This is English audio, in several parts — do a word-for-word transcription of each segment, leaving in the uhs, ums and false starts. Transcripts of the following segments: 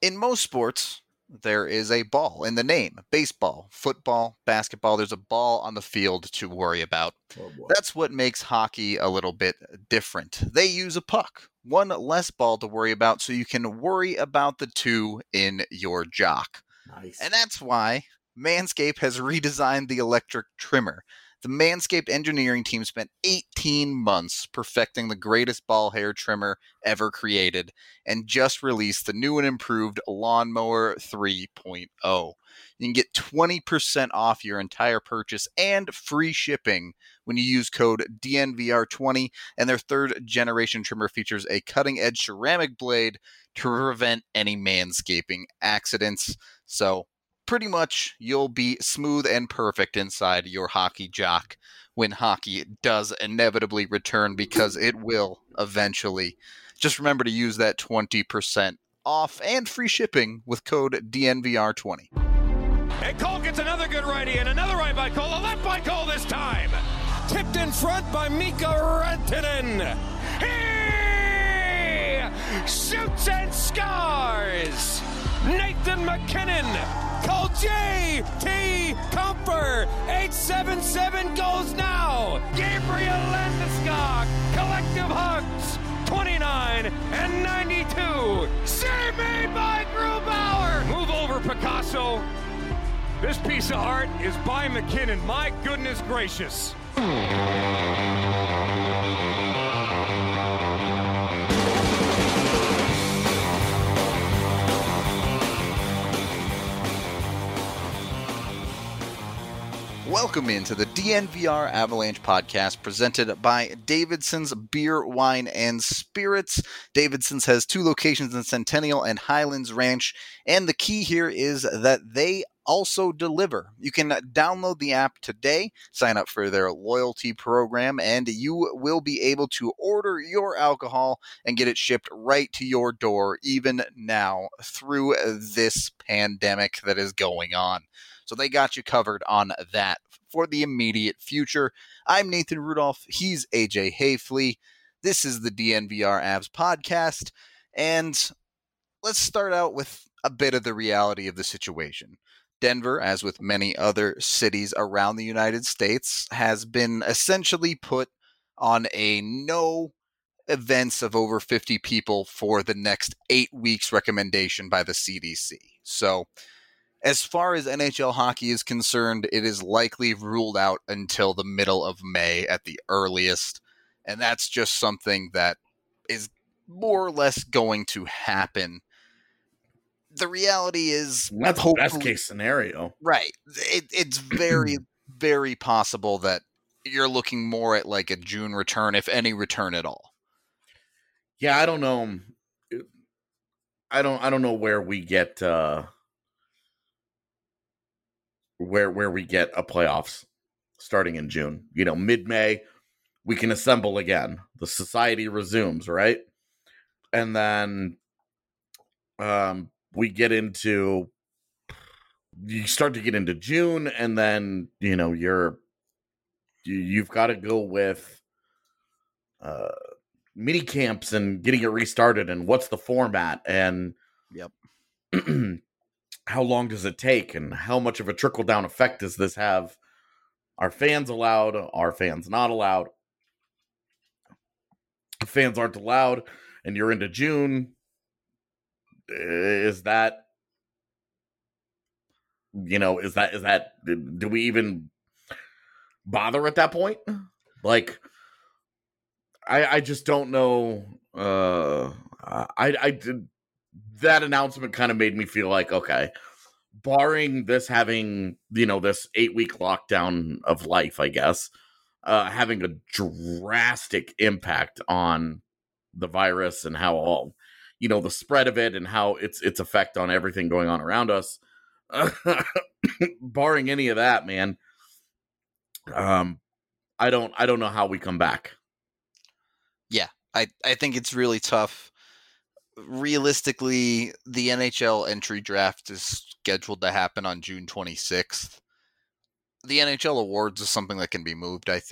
in most sports, there is a ball in the name. Baseball, football, basketball, there's a ball on the field to worry about. Oh boy. That's what makes hockey a little bit different. They use a puck, one less ball to worry about, so you can worry about the two in your jock. Nice. And that's why Manscaped has redesigned the electric trimmer. The Manscaped engineering team spent eighteen months perfecting the greatest ball hair trimmer ever created and just released the new and improved Lawnmower three point oh. You can get twenty percent off your entire purchase and free shipping when you use code D N V R twenty, and their third generation trimmer features a cutting-edge ceramic blade to prevent any manscaping accidents. So pretty much you'll be smooth and perfect inside your hockey jock when hockey does inevitably return, because it will eventually. Just remember to use that twenty percent off and free shipping with code D N V R twenty. And Cole gets another good righty, and another right by Cole, a left by Cole this time. Tipped in front by Mika Rantanen. He shoots and scores. Nathan McKinnon. Call J T Comfer. eight seven seven goes now. Gabriel Landeskog. Collective hugs. twenty-nine and ninety-two. Save made by Grubauer. Move over, Picasso. This piece of art is by McKinnon. My goodness gracious. Welcome into the D N V R Avalanche podcast presented by Davidson's Beer, Wine, and Spirits. Davidson's has two locations in Centennial and Highlands Ranch, and the key here is that they also deliver. You can download the app today, sign up for their loyalty program, and you will be able to order your alcohol and get it shipped right to your door, even now through this pandemic that is going on. So they got you covered on that for the immediate future. I'm Nathan Rudolph. He's A J Hayfley. This is the D N V R Avs podcast. And let's start out with a bit of the reality of the situation. Denver, as with many other cities around the United States, has been essentially put on a no events of over fifty people for the next eight weeks recommendation by the C D C. So as far as N H L hockey is concerned, it is likely ruled out until the middle of May at the earliest. And that's just something that is more or less going to happen. The reality is, that's the best case scenario. Right. It, it's very, very possible that you're looking more at like a June return, if any return at all. Yeah, I don't know. I don't I don't know where we get uh where where we get a playoffs starting in June. You know, mid-May, we can assemble again. The society resumes, right? And then um, we get into, you start to get into June, and then, you know, you're, you, you've got to go with uh, mini camps and getting it restarted, and what's the format, and yep. how long does it take, and how much of a trickle-down effect does this have? Are fans allowed? Are fans not allowed? If fans aren't allowed and you're into June, is that, you know, is that, is that, do we even bother at that point? Like, I, I just don't know. Uh, I, I did. That announcement kind of made me feel like, okay, barring this having, you know, this eight week lockdown of life, I guess, uh, having a drastic impact on the virus and how all, you know, the spread of it and how its its effect on everything going on around us, barring any of that, man, um, I don't, I don't know how we come back. Yeah, I, I think it's really tough. Realistically, the N H L entry draft is scheduled to happen on June twenty-sixth. The N H L awards is something that can be moved, I think.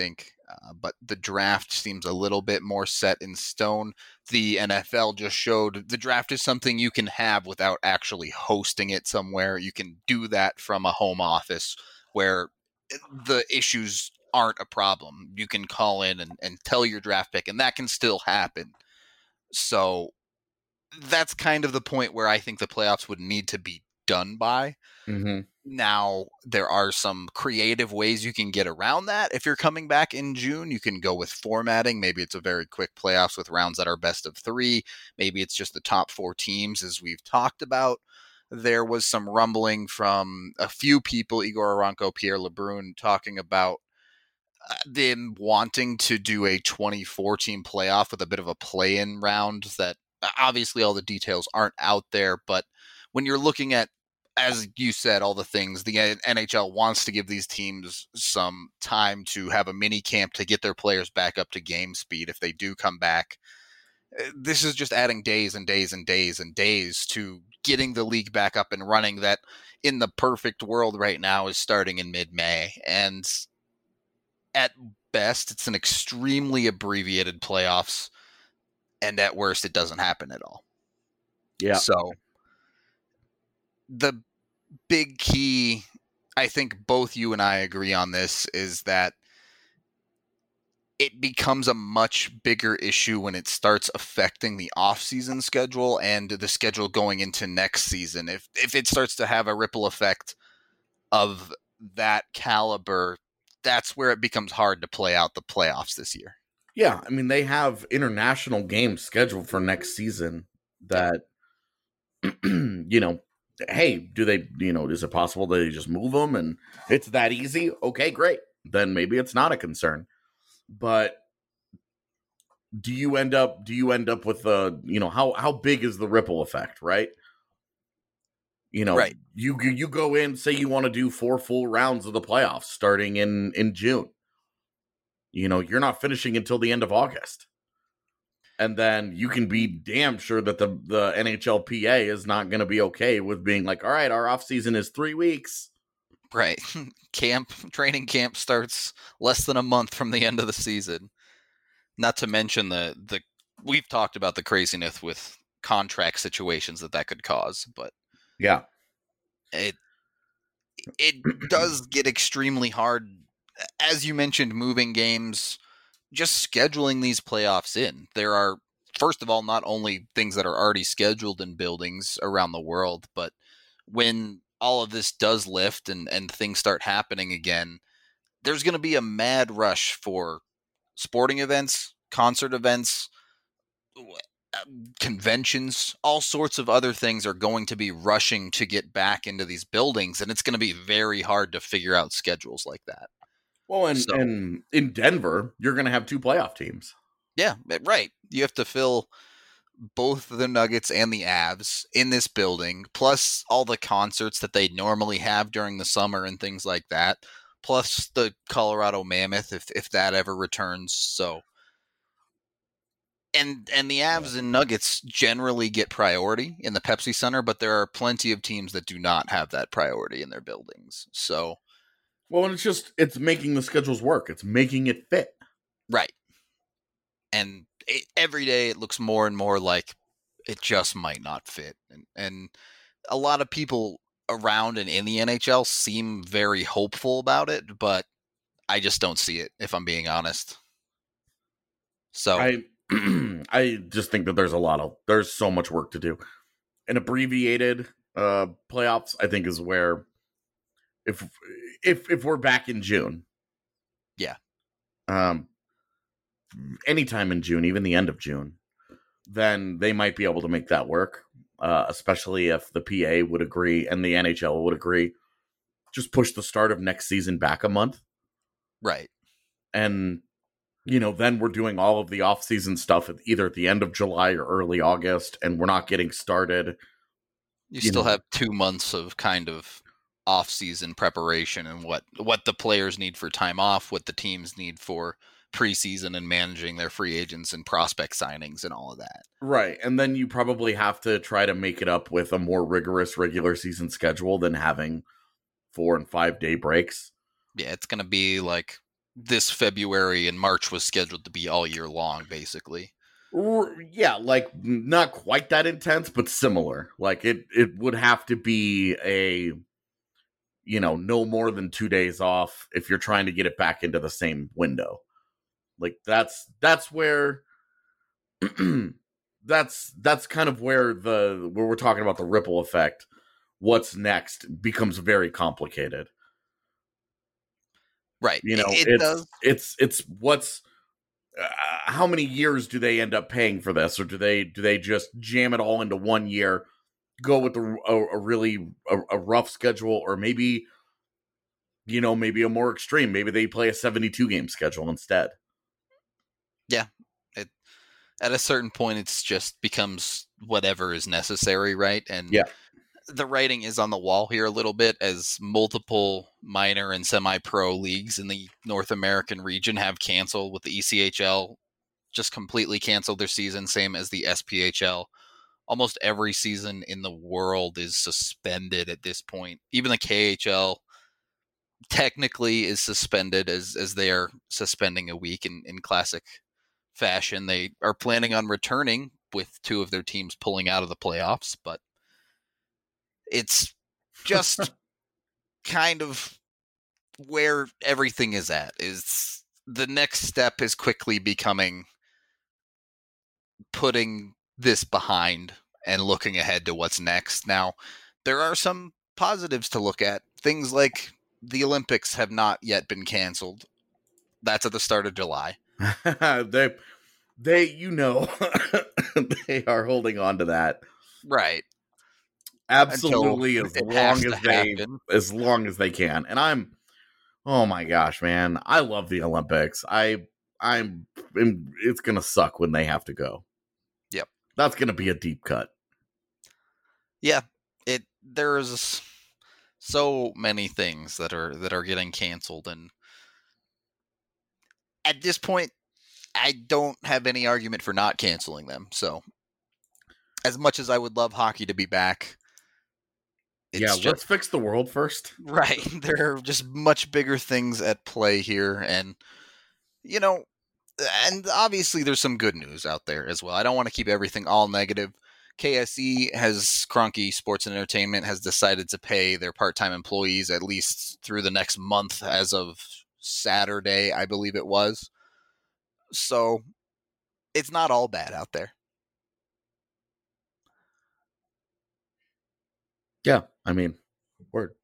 Uh, but the draft seems a little bit more set in stone. The N F L just showed the draft is something you can have without actually hosting it somewhere. You can do that from a home office where the issues aren't a problem. You can call in and, and tell your draft pick, and that can still happen. So that's kind of the point where I think the playoffs would need to be done by. Mm-hmm. Now, there are some creative ways you can get around that. If you're coming back in June, you can go with formatting. Maybe it's a very quick playoffs with rounds that are best of three. Maybe it's just the top four teams, as we've talked about. There was some rumbling from a few people, Igor Aranko, Pierre LeBrun, talking about uh, them wanting to do a twenty-four team playoff with a bit of a play-in round that obviously all the details aren't out there. But when you're looking at, as you said, all the things, the N H L wants to give these teams some time to have a mini camp to get their players back up to game speed if they do come back. This is just adding days and days and days and days to getting the league back up and running that in the perfect world right now is starting in mid-May. And at best, it's an extremely abbreviated playoffs. And at worst, it doesn't happen at all. Yeah. So the big key, I think both you and I agree on this, is that it becomes a much bigger issue when it starts affecting the off-season schedule and the schedule going into next season. If if it starts to have a ripple effect of that caliber, that's where it becomes hard to play out the playoffs this year. Yeah, I mean, they have international games scheduled for next season that, you know, hey, do they, you know, is it possible that they just move them and it's that easy? Okay, great. Then maybe it's not a concern. But do you end up, do you end up with a, you know, how, how big is the ripple effect, right? You know, right. you, you go in, say you want to do four full rounds of the playoffs starting in, in June. You know, you're not finishing until the end of August. And then you can be damn sure that the, the N H L P A is not going to be okay with being like, all right, our off season is three weeks. Right. Camp, training camp starts less than a month from the end of the season. Not to mention the, the we've talked about the craziness with contract situations that that could cause, but yeah, it, it does get extremely hard. As you mentioned, moving games, just scheduling these playoffs in. There are, first of all, not only things that are already scheduled in buildings around the world, but when all of this does lift and, and things start happening again, there's going to be a mad rush for sporting events, concert events, conventions, all sorts of other things are going to be rushing to get back into these buildings, and it's going to be very hard to figure out schedules like that. Well, and, so, and in Denver, you're going to have two playoff teams. Yeah, right. You have to fill both the Nuggets and the Avs in this building, plus all the concerts that they normally have during the summer and things like that, plus the Colorado Mammoth if if that ever returns. So, and and the Avs and Nuggets generally get priority in the Pepsi Center, but there are plenty of teams that do not have that priority in their buildings. So, well, and it's just it's making the schedules work. It's making it fit. Right. And it, every day it looks more and more like it just might not fit. And, and a lot of people around and in the N H L seem very hopeful about it, but I just don't see it, if I'm being honest. So I I just think that there's a lot of, there's so much work to do. An abbreviated uh, playoffs, I think, is where if if if we're back in June. Yeah. Um anytime in June, even the end of June, then they might be able to make that work, uh, especially if the P A would agree and the N H L would agree. Just push the start of next season back a month. Right. And, you know, then we're doing all of the off-season stuff at either at the end of July or early August, and we're not getting started. You, you still know. have two months of kind of off-season preparation and what, what the players need for time off, what the teams need for preseason and managing their free agents and prospect signings and all of that. Right. And then you probably have to try to make it up with a more rigorous regular season schedule than having four and five day breaks. Yeah, it's going to be like this February and March was scheduled to be all year long, basically. Yeah, like not quite that intense, but similar. Like it, it would have to be a, you know, no more than two days off if you're trying to get it back into the same window. Like that's that's where that's that's kind of where the where we're talking about the ripple effect. What's next becomes very complicated. Right. You know, it, it it's, does. it's it's what's uh, how many years do they end up paying for this, or do they do they just jam it all into one year, go with a, a, a really a, a rough schedule, or maybe, you know, maybe a more extreme, maybe they play a seventy-two game schedule instead. Yeah. It, at a certain point, it's just becomes whatever is necessary, right? And yeah. the writing is on the wall here a little bit, as multiple minor and semi-pro leagues in the North American region have canceled, with the E C H L just completely canceled their season, same as the S P H L. Almost every season in the world is suspended at this point. Even the K H L technically is suspended, as as they are suspending a week in, in classic fashion. They are planning on returning with two of their teams pulling out of the playoffs, but it's just kind of where everything is at. Is the next step is quickly becoming putting this behind and looking ahead to what's next. Now, there are some positives to look at. Things like the Olympics have not yet been canceled. That's at the start of July. they, they, you know, they are holding on to that. Right. Absolutely, as long as they happen. as long as they can. And I'm oh my gosh, man. I love the Olympics. I I'm it's gonna suck when they have to go. Yep. That's gonna be a deep cut. Yeah. It there's so many things that are that are getting canceled, and at this point I don't have any argument for not canceling them. So as much as I would love hockey to be back, It's yeah, just, let's fix the world first. Right. There are just much bigger things at play here. And, you know, and obviously there's some good news out there as well. I don't want to keep everything all negative. K S E has, Kroenke Sports and Entertainment has decided to pay their part-time employees at least through the next month as of Saturday, I believe it was. So it's not all bad out there. Yeah, I mean, word.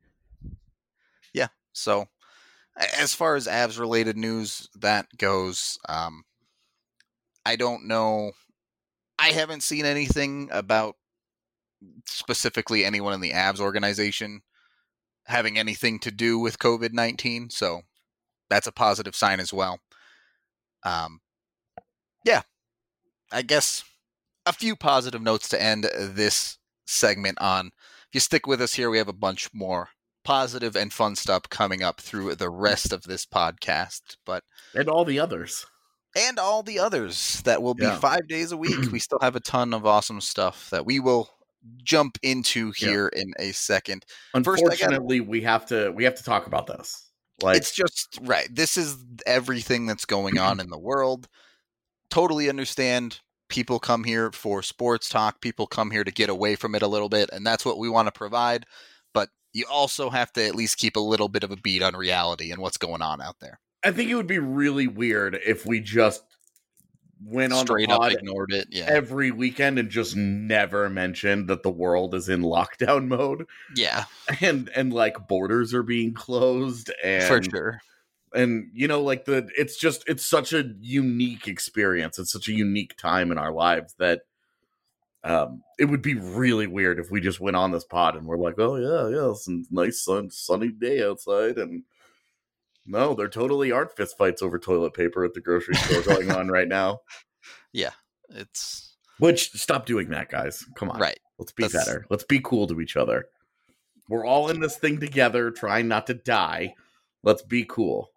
Yeah, so as far as Avs related news that goes, um, I don't know. I haven't seen anything about specifically anyone in the Avs organization having anything to do with COVID nineteen, so that's a positive sign as well. Um, yeah, I guess a few positive notes to end this segment on. If you stick with us here, we have a bunch more positive and fun stuff coming up through the rest of this podcast, but and all the others. And all the others that will be yeah. five days a week. We still have a ton of awesome stuff that we will jump into here yeah. in a second. Unfortunately, First, gotta, we have to we have to talk about this. Like, it's just right. This is everything that's going on in the world. Totally understand. People come here for sports talk. People come here to get away from it a little bit, and that's what we want to provide. But you also have to at least keep a little bit of a beat on reality and what's going on out there. I think it would be really weird if we just went on straight the pod up ignored it yeah. every weekend and just never mentioned that the world is in lockdown mode. Yeah, and and like borders are being closed, and for sure. And, you know, like the, it's just, it's such a unique experience. It's such a unique time in our lives that um, it would be really weird if we just went on this pod and we're like, oh yeah, yeah, it's a nice sun, sunny day outside. And no, there totally aren't fist fights over toilet paper at the grocery store going on right now. Yeah, it's. Which, stop doing that, guys. Come on. Right. Let's be That's... better. Let's be cool to each other. We're all in this thing together, trying not to die. Let's be cool.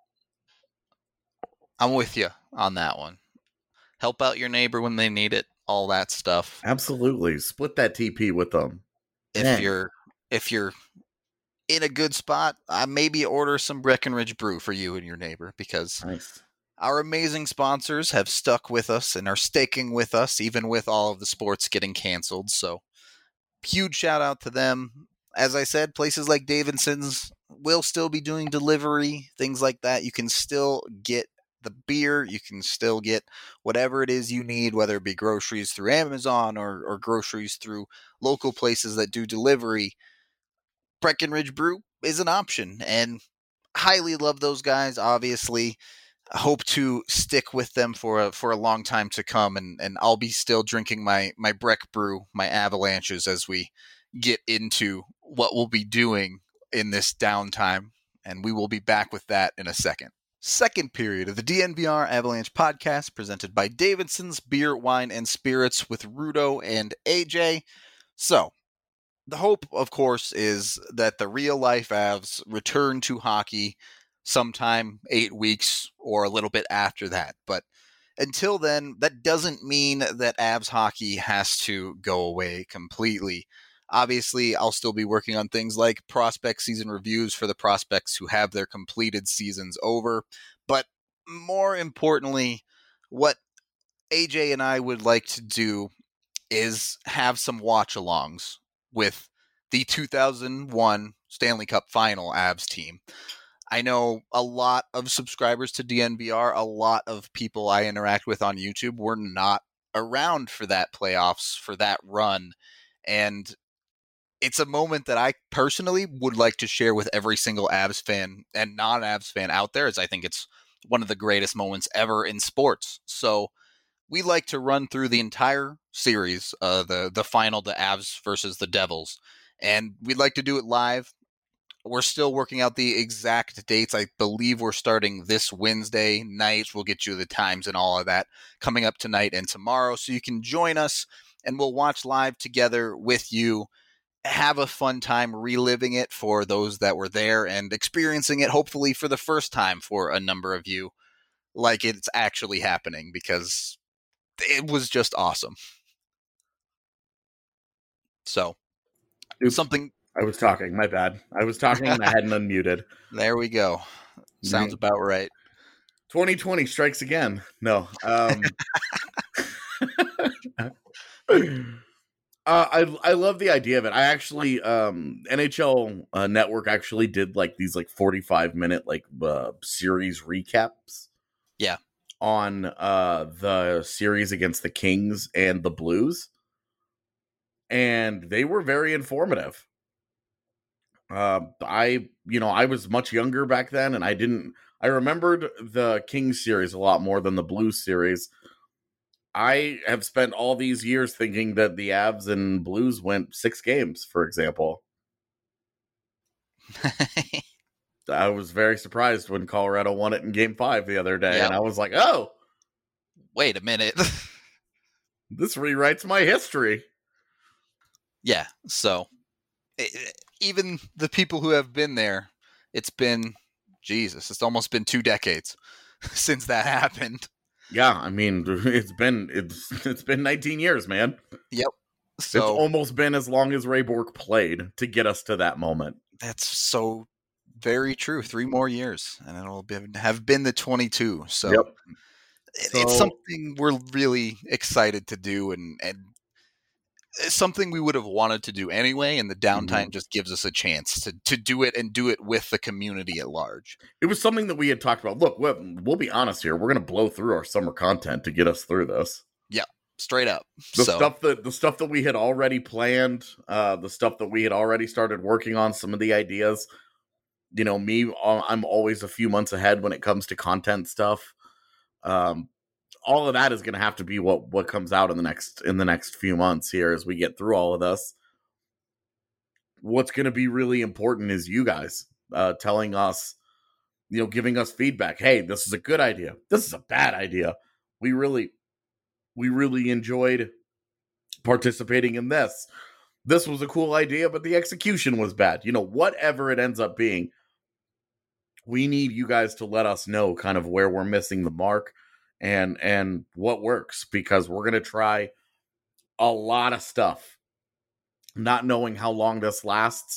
I'm with you on that one. Help out your neighbor when they need it. All that stuff. Absolutely. Split that T P with them. If Dang. you're if you're in a good spot, uh, maybe order some Breckenridge Brew for you and your neighbor, because Nice. our amazing sponsors have stuck with us and are sticking with us, even with all of the sports getting canceled. So huge shout out to them. As I said, places like Davidson's will still be doing delivery, things like that. You can still get the beer. You can still get whatever it is you need, whether it be groceries through Amazon or, or groceries through local places that do delivery. Breckenridge Brew is an option, and highly love those guys, obviously. I hope to stick with them for a, for a long time to come, and, and I'll be still drinking my, my Breck Brew, my Avalanches, as we get into what we'll be doing in this downtime, and we will be back with that in a second. Second period of the D N V R Avalanche podcast, presented by Davidson's Beer, Wine, and Spirits with Rudo and A J. So, the hope, of course, is that the real-life Avs return to hockey sometime eight weeks or a little bit after that. But until then, that doesn't mean that Avs hockey has to go away completely. Obviously, I'll still be working on things like prospect season reviews for the prospects who have their completed seasons over. But more importantly, what A J and I would like to do is have some watch-alongs with the two thousand one Stanley Cup Final Avs team. I know a lot of subscribers to D N V R, a lot of people I interact with on YouTube were not around for that playoffs, for that run. And it's a moment that I personally would like to share with every single Avs fan and non-Avs fan out there, as I think it's one of the greatest moments ever in sports. So we like to run through the entire series, uh, the, the final, the Avs versus the Devils. And we'd like to do it live. We're still working out the exact dates. I believe we're starting this Wednesday night. We'll get you the times and all of that coming up tonight and tomorrow. So you can join us and we'll watch live together with you. Have a fun time reliving it for those that were there and experiencing it, hopefully for the first time for a number of you, like it's actually happening, because it was just awesome. So, Oops. something... I was talking. My bad. I was talking and I hadn't unmuted. There we go. Sounds about right. twenty twenty strikes again. No. Um, uh, I I love the idea of it. I actually um, N H L uh, Network actually did like these like forty-five minute like uh, series recaps. Yeah. On uh, the series against the Kings and the Blues, and they were very informative. Uh, I, you know, I was much younger back then, and I didn't, I remembered the Kings series a lot more than the Blues series. I have spent all these years thinking that the Avs and Blues went six games, for example. I was very surprised when Colorado won it in game five the other day, yep. And I was like, oh, wait a minute. This rewrites my history. Yeah, so it, even the people who have been there, it's been, Jesus, it's almost been two decades since that happened. Yeah, I mean, it's been it's it's been nineteen years, man. Yep. So it's almost been as long as Ray Bourque played to get us to that moment. That's so very true. Three more years, and it'll be, have been the twenty-two. So, yep. it, so it's something we're really excited to do, and and it's something we would have wanted to do anyway, and the downtime mm-hmm. just gives us a chance to, to do it and do it with the community at large. It was something that we had talked about. Look, we'll, we'll be honest here. We're going to blow through our summer content to get us through this. Yeah, straight up. The so. stuff that the stuff that we had already planned, uh, the stuff that we had already started working on, some of the ideas. You know, me, I'm always a few months ahead when it comes to content stuff. Um, all of that is going to have to be what, what comes out in the next in the next few months here as we get through all of this. What's going to be really important is you guys uh, telling us, you know, giving us feedback. Hey, this is a good idea. This is a bad idea. We really, we really enjoyed participating in this. This was a cool idea, but the execution was bad. You know, whatever it ends up being, we need you guys to let us know kind of where we're missing the mark. And and what works, because we're going to try a lot of stuff, not knowing how long this lasts,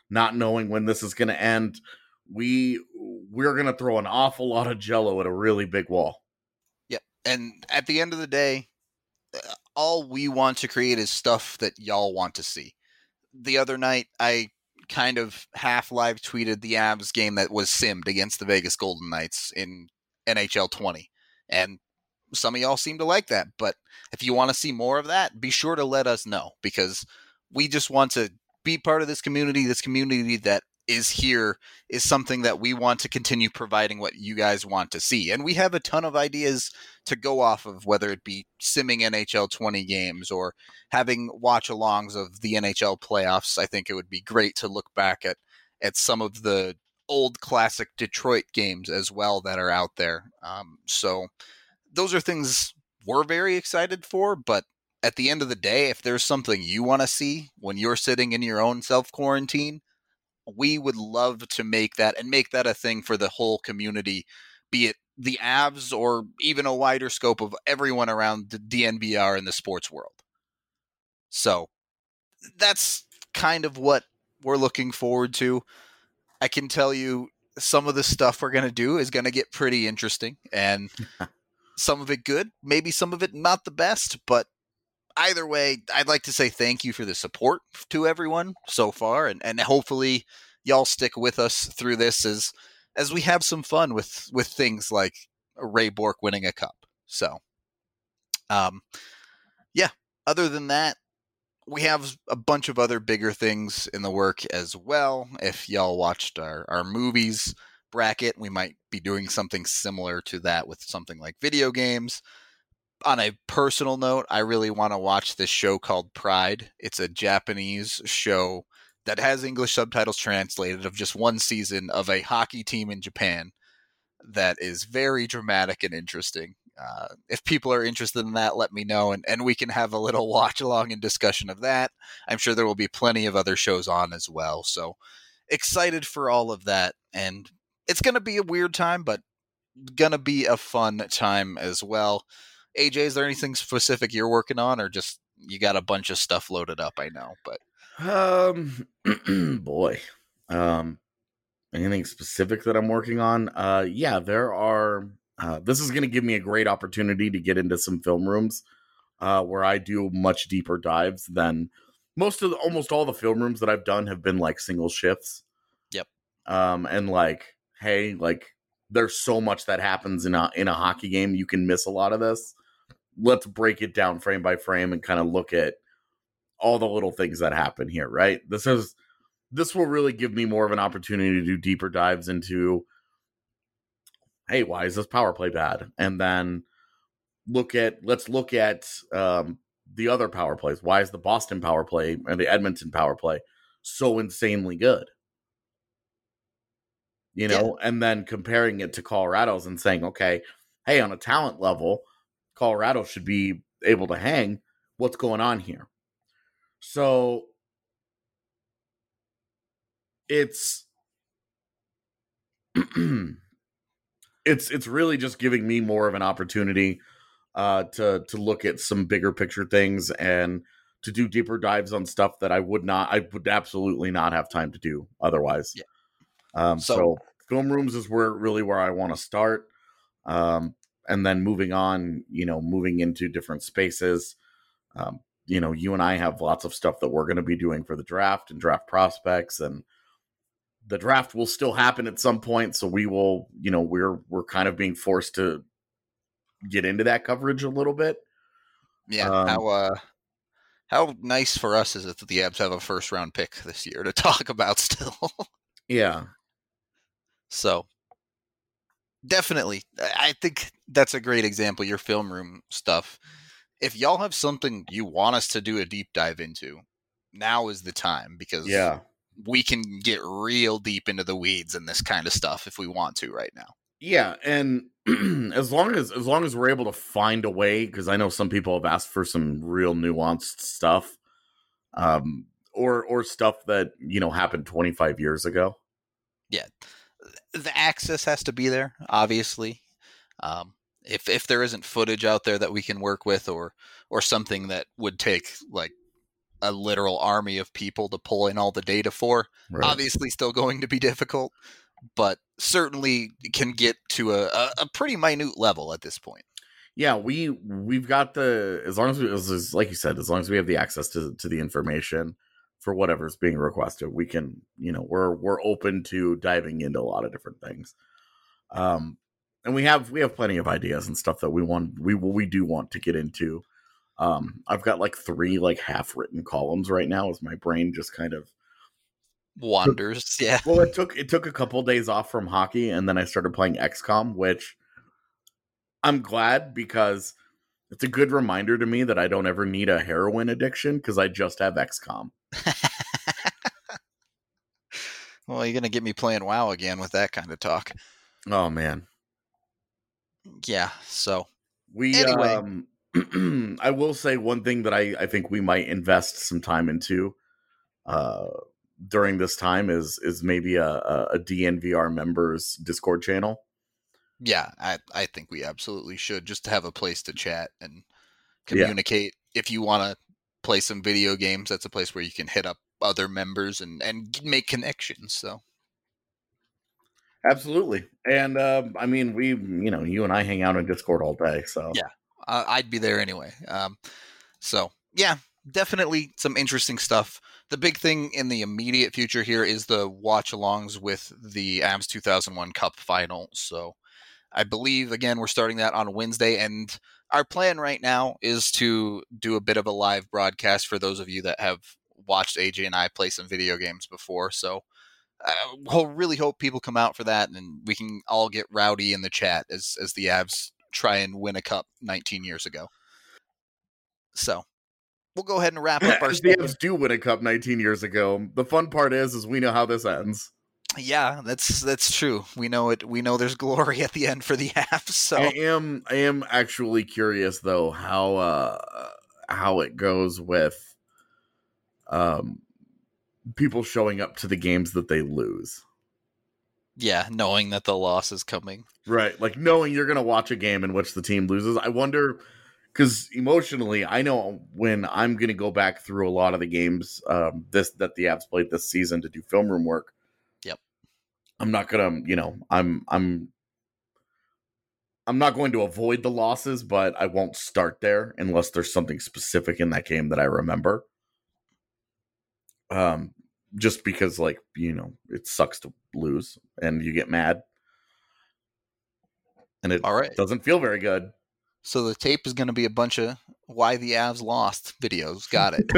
not knowing when this is going to end. We we're going to throw an awful lot of jello at a really big wall. Yep. And at the end of the day, all we want to create is stuff that y'all want to see. The other night, I kind of half live tweeted the Avs game that was simmed against the Vegas Golden Knights in N H L twenty. And some of y'all seem to like that. But if you want to see more of that, be sure to let us know, because we just want to be part of this community. This community that is here is something that we want to continue providing what you guys want to see. And we have a ton of ideas to go off of, whether it be simming N H L twenty games or having watch-alongs of the N H L playoffs. I think it would be great to look back at, at some of the old classic Detroit games as well that are out there. Um, so those are things we're very excited for, but at the end of the day, if there's something you want to see when you're sitting in your own self-quarantine, we would love to make that and make that a thing for the whole community, be it the Avs or even a wider scope of everyone around the D N V R and the sports world. So that's kind of what we're looking forward to. I can tell you some of the stuff we're going to do is going to get pretty interesting, and some of it good, maybe some of it not the best, but either way, I'd like to say thank you for the support to everyone so far, and, and hopefully y'all stick with us through this as as we have some fun with, with things like Ray Bourque winning a cup. So, um, yeah, other than that, we have a bunch of other bigger things in the work as well. If y'all watched our, our movies bracket, we might be doing something similar to that with something like video games. On a personal note, I really want to watch this show called Pride. It's a Japanese show that has English subtitles translated of just one season of a hockey team in Japan that is very dramatic and interesting. Uh, if people are interested in that, let me know, and, and we can have a little watch along and discussion of that. I'm sure there will be plenty of other shows on as well. So excited for all of that. And it's going to be a weird time, but going to be a fun time as well. A J, is there anything specific you're working on, or just you got a bunch of stuff loaded up? I know, but um, boy, um, anything specific that I'm working on? Uh, yeah, there are. Uh, this is going to give me a great opportunity to get into some film rooms, uh, where I do much deeper dives than most of the, almost all the film rooms that I've done have been like single shifts. Yep. Um, and like, hey, like, there's so much that happens in a in a hockey game. You can miss a lot of this. Let's break it down frame by frame and kind of look at all the little things that happen here, right? This is this will really give me more of an opportunity to do deeper dives into, hey, why is this power play bad? And then look at let's look at um, the other power plays. Why is the Boston power play and the Edmonton power play so insanely good? You know, yeah. And then comparing it to Colorado's and saying, okay, hey, on a talent level, Colorado should be able to hang. What's going on here? So it's it's it's really just giving me more of an opportunity uh, to to look at some bigger picture things and to do deeper dives on stuff that I would not, I would absolutely not have time to do otherwise. Yeah. Um, so, so film rooms is where really where I want to start. Um, and then moving on, you know, moving into different spaces. Um, you know, you and I have lots of stuff that we're going to be doing for the draft and draft prospects, and the draft will still happen at some point. So we will, you know, we're, we're kind of being forced to get into that coverage a little bit. Yeah. Um, how, uh, how nice for us is it that the Avs have a first round pick this year to talk about still? Yeah. So definitely, I think that's a great example, your film room stuff. If y'all have something you want us to do a deep dive into, now is the time, because yeah, we can get real deep into the weeds and this kind of stuff if we want to right now. Yeah, and as long as as long as we're able to find a way, because I know some people have asked for some real nuanced stuff, um, or or stuff that, you know, happened twenty-five years ago. Yeah, the access has to be there, obviously. Um, if if there isn't footage out there that we can work with, or or something that would take like a literal army of people to pull in all the data for. Right. Obviously still going to be difficult, but certainly can get to a, a, a pretty minute level at this point. Yeah, we we've got the as long as we as, as, like you said, as long as we have the access to to the information for whatever's being requested, we can, you know, we're we're open to diving into a lot of different things. Um, and we have we have plenty of ideas and stuff that we want we we do want to get into. Um, I've got like three like half written columns right now as my brain just kind of wanders. Took, yeah. Well, it took it took a couple days off from hockey, and then I started playing X COM, which I'm glad because it's a good reminder to me that I don't ever need a heroin addiction because I just have X COM. Well, you're going to get me playing WoW again with that kind of talk. Oh, man. Yeah, so. We, anyway. Um, I will say one thing that I, I think we might invest some time into uh, during this time is is maybe a, a D N V R members Discord channel. Yeah, I, I think we absolutely should, just to have a place to chat and communicate. Yeah. If you want to play some video games, that's a place where you can hit up other members and, and make connections. So, absolutely. And um, I mean, we, you know, you and I hang out on Discord all day. So, yeah, uh, I'd be there anyway. Um, so, yeah, definitely some interesting stuff. The big thing in the immediate future here is the watch-alongs with the Avs two thousand one Cup final. So, I believe, again, we're starting that on Wednesday, and our plan right now is to do a bit of a live broadcast for those of you that have watched A J and I play some video games before. So I uh, really hope people come out for that, and we can all get rowdy in the chat as, as the Avs try and win a cup nineteen years ago. So we'll go ahead and wrap up our the Avs do win a cup nineteen years ago. The fun part is, is we know how this ends. Yeah, that's that's true. We know it. We know there's glory at the end for the Avs. So I am I am actually curious though how uh, how it goes with um people showing up to the games that they lose. Yeah, knowing that the loss is coming. Right, like knowing you're going to watch a game in which the team loses. I wonder, because emotionally, I know when I'm going to go back through a lot of the games um, this that the Avs played this season to do film room work. Yep. I'm not gonna, you know, I'm I'm I'm not going to avoid the losses, but I won't start there unless there's something specific in that game that I remember. Um, just because, like, you know, it sucks to lose and you get mad, and it All right. doesn't feel very good. So the tape is going to be a bunch of why the Avs lost videos. Got it.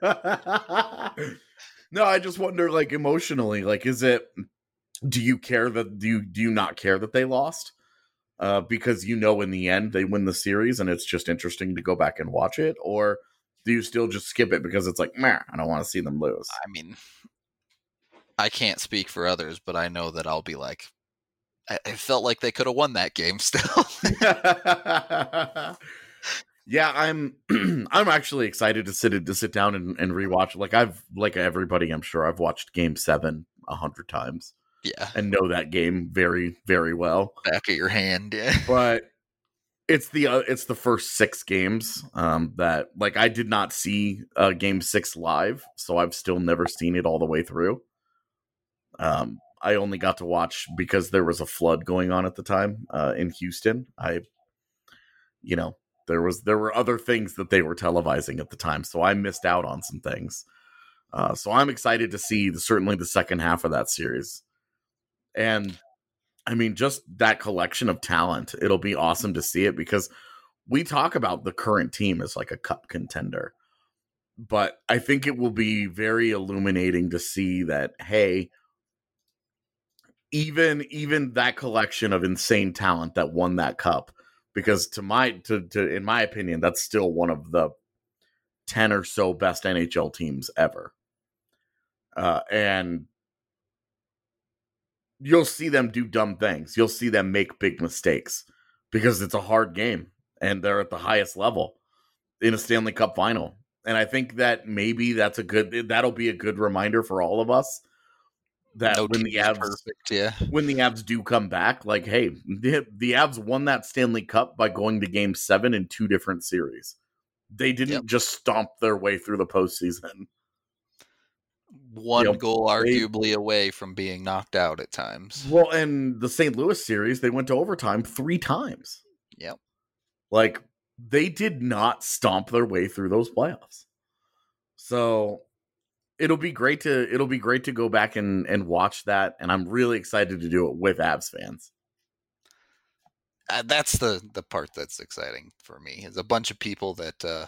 No, I just wonder, like, emotionally, like, is it? Do you care that do you do you not care that they lost? Uh, because you know in the end they win the series and it's just interesting to go back and watch it, or do you still just skip it because it's like, meh, I don't want to see them lose? I mean, I can't speak for others, but I know that I'll be like, I, I felt like they could have won that game still. Yeah, I'm I'm actually excited to sit to sit down and, and rewatch. Like I've like everybody, I'm sure I've watched Game Seven a hundred times. Yeah, and know that game very, very well. Back of your hand, yeah. But it's the uh, it's the first six games um, that, like, I did not see uh, Game Six live, so I've still never seen it all the way through. Um, I only got to watch because there was a flood going on at the time uh, in Houston. I, you know, there was there were other things that they were televising at the time, so I missed out on some things. Uh, so I'm excited to see the, certainly the second half of that series. And I mean, just that collection of talent, it'll be awesome to see it because we talk about the current team as like a cup contender. But I think it will be very illuminating to see that, hey, even even that collection of insane talent that won that cup, because to my to, to in my opinion, that's still one of the ten or so best N H L teams ever. Uh, and you'll see them do dumb things. You'll see them make big mistakes because it's a hard game and they're at the highest level in a Stanley Cup final. And I think that maybe that's a good, that'll be a good reminder for all of us that no when the Avs, perfect, yeah. when the Avs do come back, like, hey, the, the Avs won that Stanley Cup by going to game seven in two different series. They didn't Yep. just stomp their way through the postseason. One You know, goal they- arguably away from being knocked out at times. Well, and the Saint Louis series, they went to overtime three times. Yep. Like, they did not stomp their way through those playoffs. So it'll be great to it'll be great to go back and, and watch that, and I'm really excited to do it with Avs fans. Uh, that's the the part that's exciting for me. Is a bunch of people that uh,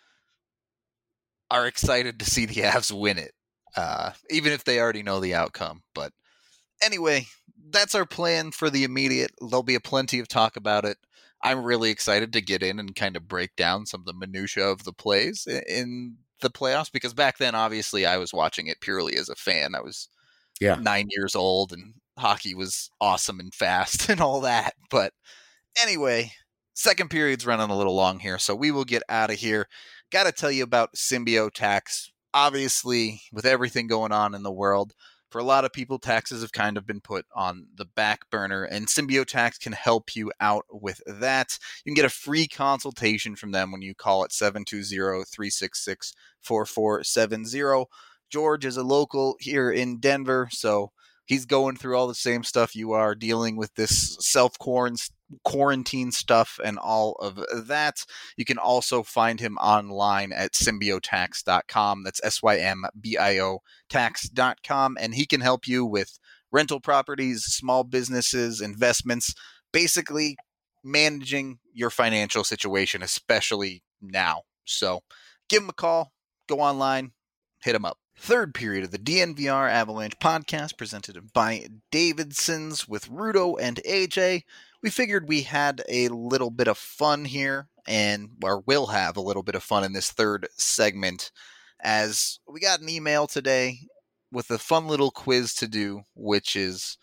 are excited to see the Avs win it, uh, even if they already know the outcome. But anyway, that's our plan for the immediate. There'll be a plenty of talk about it. I'm really excited to get in and kind of break down some of the minutia of the plays i- in the playoffs, because back then, obviously, I was watching it purely as a fan. I was Yeah. nine years old, and hockey was awesome and fast and all that. But anyway, second period's running a little long here, so we will get out of here. Got to tell you about Symbio Tax. Obviously, with everything going on in the world, for a lot of people, taxes have kind of been put on the back burner, and Symbio Tax can help you out with that. You can get a free consultation from them when you call at seven two zero, three six six, four four seven zero. George is a local here in Denver, so he's going through all the same stuff you are, dealing with this self-quarantine stuff and all of that. You can also find him online at symbiotax dot com. That's S Y M B I O tax dot com. And he can help you with rental properties, small businesses, investments, basically managing your financial situation, especially now. So give him a call, go online, hit him up. Third period of the D N V R Avalanche podcast presented by Davidson's with Rudo and A J. We figured we had a little bit of fun here, and or will have a little bit of fun in this third segment, as we got an email today with a fun little quiz to do, which is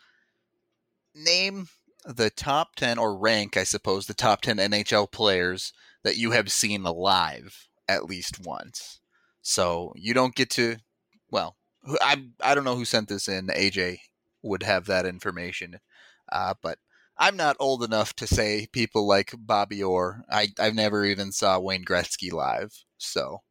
name the top ten, or rank, I suppose, the top ten N H L players that you have seen live at least once. So you don't get to, well, I I don't know who sent this in. A J would have that information, uh, but I'm not old enough to say people like Bobby Orr. I I've never even saw Wayne Gretzky live, so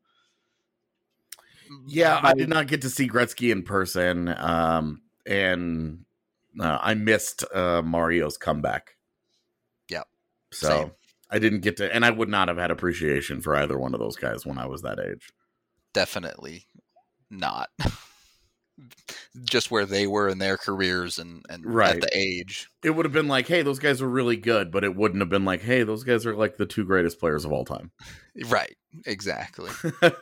Yeah, my- I did not get to see Gretzky in person, um, and uh, I missed uh, Mario's comeback. Yep. So Same. I didn't get to, and I would not have had appreciation for either one of those guys when I was that age. Definitely not. Just where they were in their careers and, and Right. at the age. It would have been like, hey, those guys are really good, but it wouldn't have been like, hey, those guys are like the two greatest players of all time. Right. Exactly.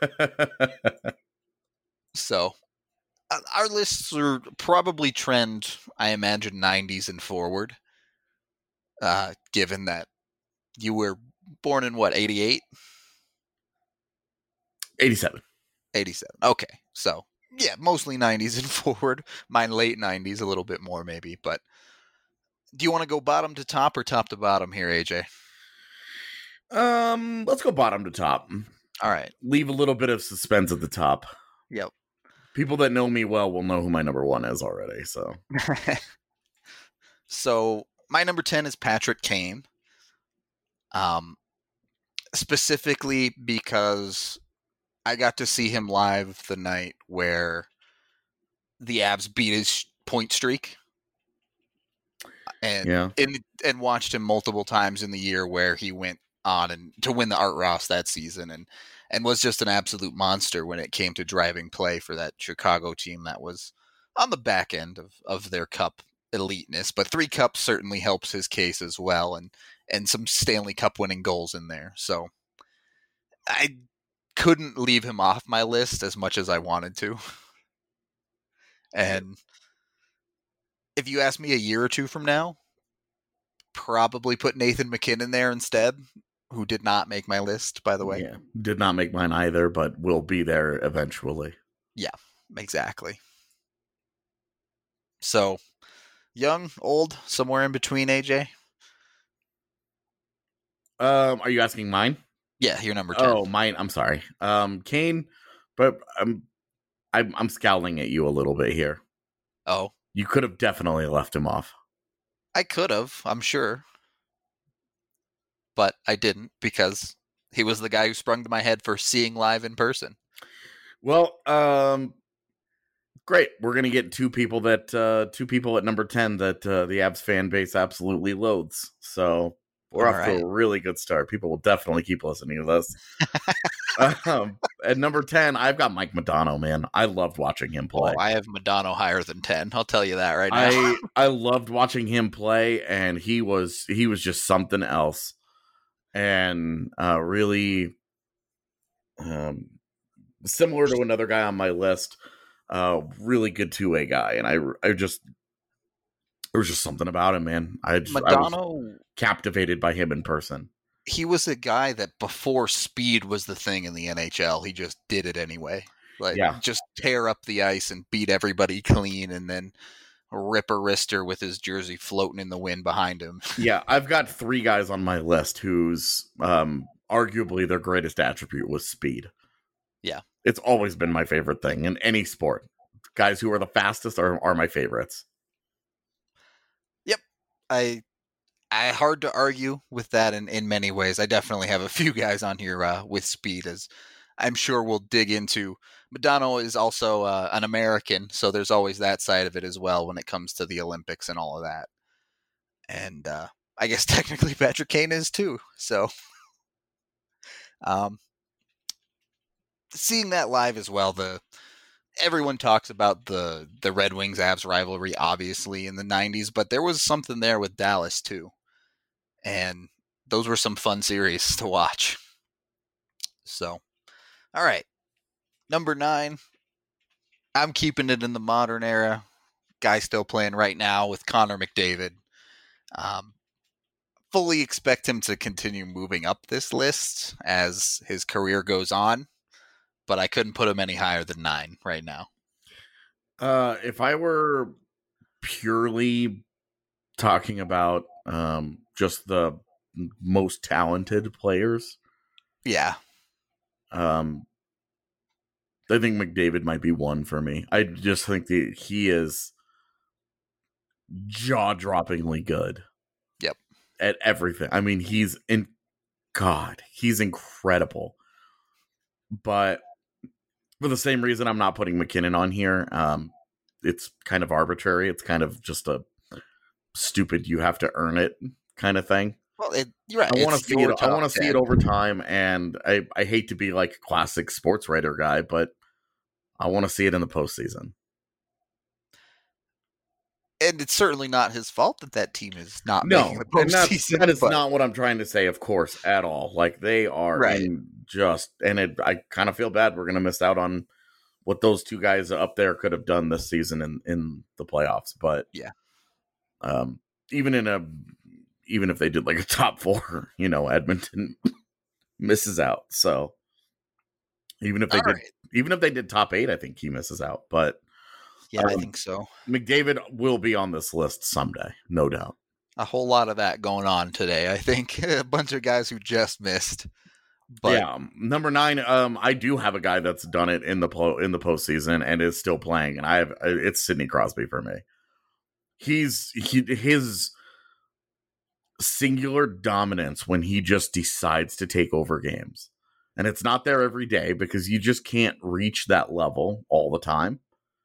So uh, our lists are probably trend, I imagine, nineties and forward, uh, given that you were born in what, eighty-eight? eighty-seven. eighty-seven. Okay. So, yeah, mostly nineties and forward. Mine late nineties, a little bit more maybe. But do you want to go bottom to top or top to bottom here, A J? Um, let's go bottom to top. All right. Leave a little bit of suspense at the top. Yep. People that know me well will know who my number one is already. So So my number ten is Patrick Kane. Um, specifically because I got to see him live the night where the Avs beat his point streak, and yeah, and and watched him multiple times in the year where he went on and to win the Art Ross that season, and and was just an absolute monster when it came to driving play for that Chicago team that was on the back end of, of their cup eliteness. But three cups certainly helps his case as well, and and some Stanley Cup winning goals in there. So I couldn't leave him off my list as much as I wanted to. And if you ask me a year or two from now, probably put Nathan MacKinnon there instead, who did not make my list, by the way. yeah, did not make mine either, but will be there eventually. Exactly. So, young, old, somewhere in between, A J? Um, are you asking mine? Yeah, you're number ten. Oh, mine. I'm sorry. Um, Kane, but I'm, I'm, I'm scowling at you a little bit here. Oh, You could have definitely left him off. I could have, I'm sure. But I didn't, because He was the guy who sprung to my head for seeing live in person. Well, um, great. We're gonna get two people that uh, two people at number ten that uh, the Avs fan base absolutely loathes. So we're All off right. to a really good start. People will definitely keep listening to this. um, at number ten, I've got Mike Modano. Man, I loved watching him play. Oh, I have Modano higher than ten. I'll tell you that right now. I I loved watching him play, and he was he was just something else, and uh, really um, similar to another guy on my list. Uh, really good two way guy, and I I just there was just something about him, man. I just, I was Modano, captivated by him in person. he was a guy that before speed was the thing in the N H L, he just did it anyway. Like, Yeah. just tear up the ice and beat everybody clean, and then rip a wrister with his jersey floating in the wind behind him. Yeah, I've got three guys on my list whose um, arguably their greatest attribute was speed. Yeah. It's always been my favorite thing in any sport. Guys who are the fastest are, are my favorites. Yep. I I hard to argue with that in, in many ways. I definitely have a few guys on here uh, with speed, as I'm sure we'll dig into. Modano is also uh, an American, so there's always that side of it as well when it comes to the Olympics and all of that. And uh, I guess technically Patrick Kane is too. So um, seeing that live as well, the everyone talks about the the Red Wings Avs rivalry, obviously, in the nineties, but there was something there with Dallas too. And those were some fun series to watch. So, all right. Number nine, I'm keeping it in the modern era. Guy still playing right now with Connor McDavid. Um, fully expect him to continue moving up this list as his career goes on, but I couldn't put him any higher than nine right now. Uh, if I were purely talking about um, just the most talented players, Yeah. um, I think McDavid might be one for me. I just think that he is jaw-droppingly good. Yep. At everything. I mean, he's in God, he's incredible. But for the same reason I'm not putting McKinnon on here, um, it's kind of arbitrary. It's kind of just a stupid you have to earn it kind of thing. Well, it, you're right. I want to It's see your it. I top want to see ten. it over time, and I, I hate to be like a classic sports writer guy, but I want to see it in the postseason. And it's certainly not his fault that that team is not No, making the and that's, postseason. that is but- not what I'm trying to say, of course, at all. Like, they are Right. in just, and it, I kind of feel bad we're going to miss out on what those two guys up there could have done this season in, in the playoffs. But Yeah. um, even in a, even if they did like a top four, you know, Edmonton misses out. So even if they All did, right. even if they did top eight, I think he misses out. But Yeah, I um, think so. McDavid will be on this list someday, no doubt. A whole lot of that going on today. I think a bunch of guys who just missed. But yeah, um, number nine. Um, I do have a guy that's done it in the po- in the postseason and is still playing, and I have it's Sidney Crosby for me. He's he his singular dominance when he just decides to take over games, and it's not there every day because you just can't reach that level all the time.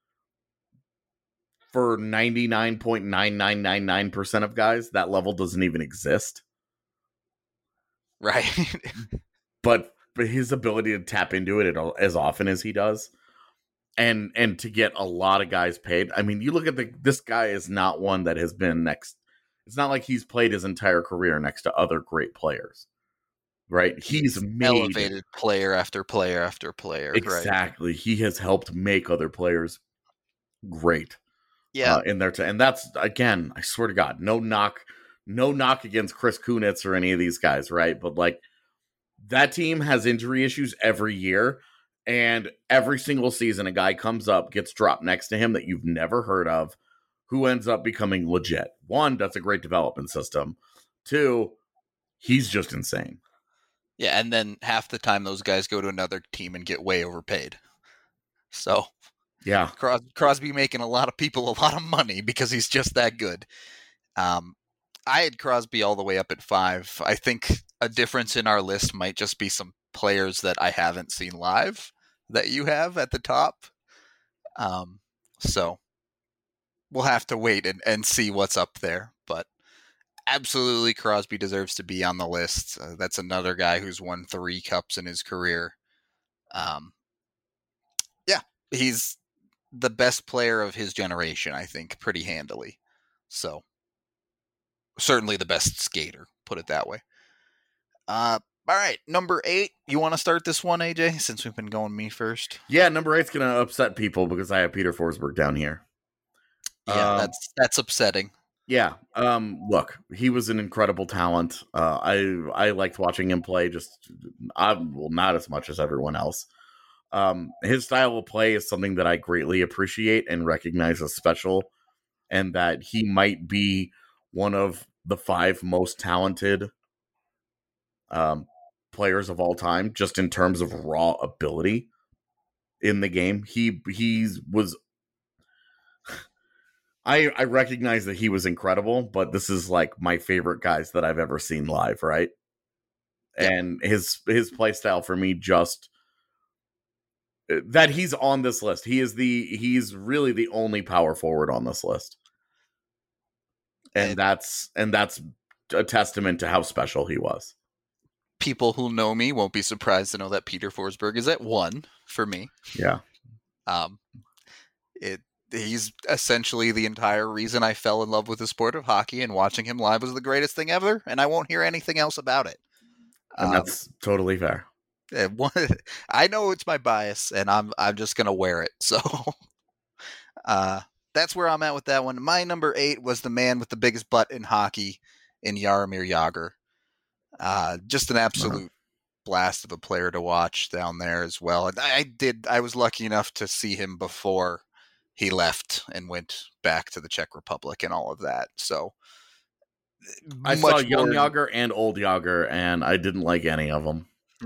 For ninety-nine point nine nine nine nine percent of guys, that level doesn't even exist. right. But but his ability to tap into it as often as he does, and and to get a lot of guys paid. I mean, you look at the this guy is not one that has been next. It's not like he's played his entire career next to other great players, right? He's made Elevated player after player after player. Right. exactly. He has helped make other players great. Yeah. Uh, in their t- and that's again, I swear to God, no knock, no knock against Chris Kunitz or any of these guys, right? But like, that team has injury issues every year, and every single season, a guy comes up, gets dropped next to him that you've never heard of, who ends up becoming legit. One, that's a great development system. Two, he's just insane. Yeah, and then half the time those guys go to another team and get way overpaid. So Yeah, Cros- Crosby making a lot of people a lot of money because he's just that good. Um, I had Crosby all the way up at five. I think a difference in our list might just be some players that I haven't seen live that you have at the top. Um, so we'll have to wait and, and see what's up there. But absolutely, Crosby deserves to be on the list. Uh, that's another guy who's won three cups in his career. Um, yeah, he's the best player of his generation, I think, pretty handily. So certainly the best skater, put it that way. Uh, all right, number eight. You want to start this one, A J, since we've been going me first? Yeah, number eight's going to upset people because I have Peter Forsberg down here. Yeah, um, that's that's upsetting. Yeah. Um, look, he was an incredible talent. Uh, I I liked watching him play. Just I, well, not as much as everyone else. Um, his style of play is something that I greatly appreciate and recognize as special, and that he might be one of the five most talented um, players of all time, just in terms of raw ability in the game. He he was. I I recognize that he was incredible, but this is like my favorite guys that I've ever seen live, right? Yeah. And his his play style for me just that he's on this list. He is the he's really the only power forward on this list. And, and that's and that's a testament to how special he was. People who know me won't be surprised to know that Peter Forsberg is at one for me. Yeah. Um it He's essentially the entire reason I fell in love with the sport of hockey, and watching him live was the greatest thing ever, and I won't hear anything else about it. And um, that's totally fair. I know it's my bias, and I'm I'm just going to wear it. So uh, that's where I'm at with that one. My number eight was the man with the biggest butt in hockey, in Jaromir Jagr. Uh, just an absolute uh-huh. blast of a player to watch down there as well. And I did. I was lucky enough to see him before he left and went back to the Czech Republic and all of that. So I saw young more... Jagr and old Jagr, and I didn't like any of them.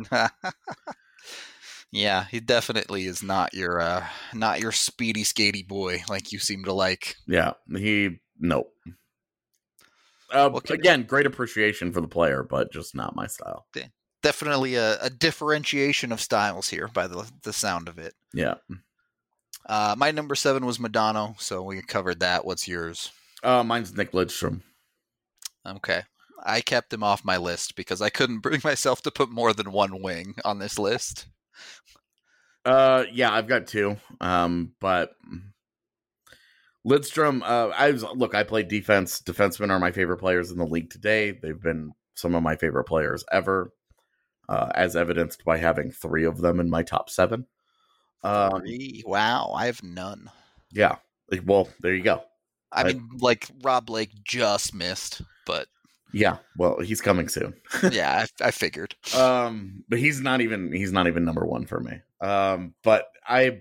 Yeah, he definitely is not your uh, not your speedy, skatey boy like you seem to like. Yeah, he nope. Uh, well, again, great appreciation for the player, but just not my style. Definitely a, a differentiation of styles here by the the sound of it. Yeah. Uh, my number seven was Modano, so we covered that. What's yours? Uh, mine's Nick Lidstrom. Okay. I kept him off my list because I couldn't bring myself to put more than one wing on this list. Uh, yeah, I've got two. Um, but Lidstrom, uh, I was, look, I played defense. Defensemen are my favorite players in the league today. They've been some of my favorite players ever, uh, as evidenced by having three of them in my top seven. Um, wow, I have none. Yeah, like, well, there you go. I, I mean, like Rob Blake just missed, but yeah, well, he's coming soon. yeah, I, I figured. Um, but he's not even he's not even number one for me. Um, but I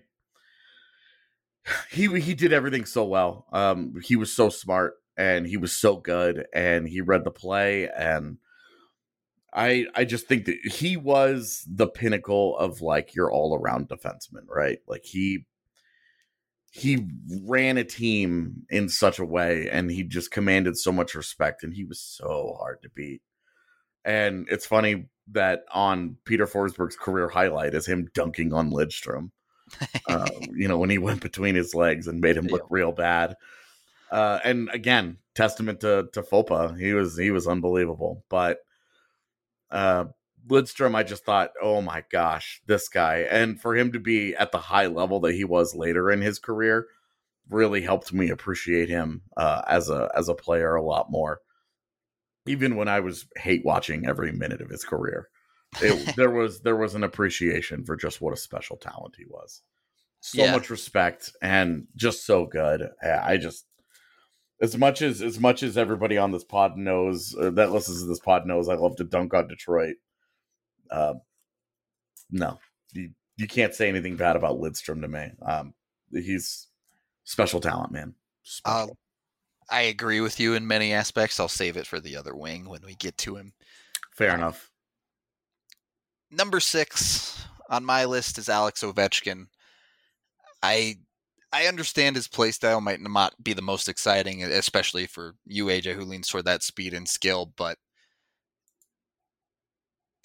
he he did everything so well. Um, he was so smart and he was so good and he read the play and. I, I just think that he was the pinnacle of like your all around defenseman, right? Like he he ran a team in such a way and he just commanded so much respect and he was so hard to beat. And it's funny that on Peter Forsberg's career highlight is him dunking on Lidstrom, uh, you know, when he went between his legs and made him look real bad. Uh, and again, testament to to Fopa. He was he was unbelievable, but. Uh, Lidstrom, I just thought, oh my gosh, this guy. And for him to be at the high level that he was later in his career really helped me appreciate him uh, as a as a player a lot more. Even when I was hate watching every minute of his career, it, there was there was an appreciation for just what a special talent he was. So yeah. much respect and just so good. I just As much as as much as everybody on this pod knows uh, that listens to this pod knows, I love to dunk on Detroit. Uh, no, you you can't say anything bad about Lidstrom to me. Um, he's special talent, man. Uh, I agree with you in many aspects. I'll save it for the other wing when we get to him. Fair um, enough. Number six on my list is Alex Ovechkin. I. I understand his play style might not be the most exciting, especially for you, A J, who leans toward that speed and skill, but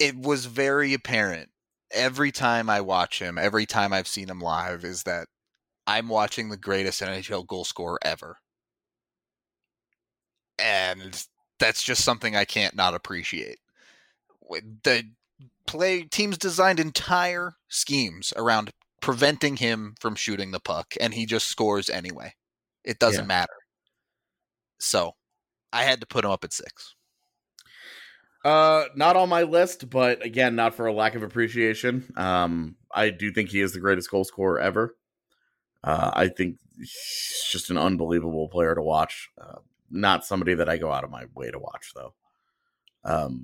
it was very apparent every time I watch him, every time I've seen him live, is that I'm watching the greatest N H L goal scorer ever. And that's just something I can't not appreciate. The play teams designed entire schemes around preventing him from shooting the puck, and he just scores anyway. It doesn't yeah. matter. So I had to put him up at six. Uh, not on my list, but again, not for a lack of appreciation. Um, I do think he is the greatest goal scorer ever. Uh, I think he's just an unbelievable player to watch. Uh, not somebody that I go out of my way to watch, though. Um,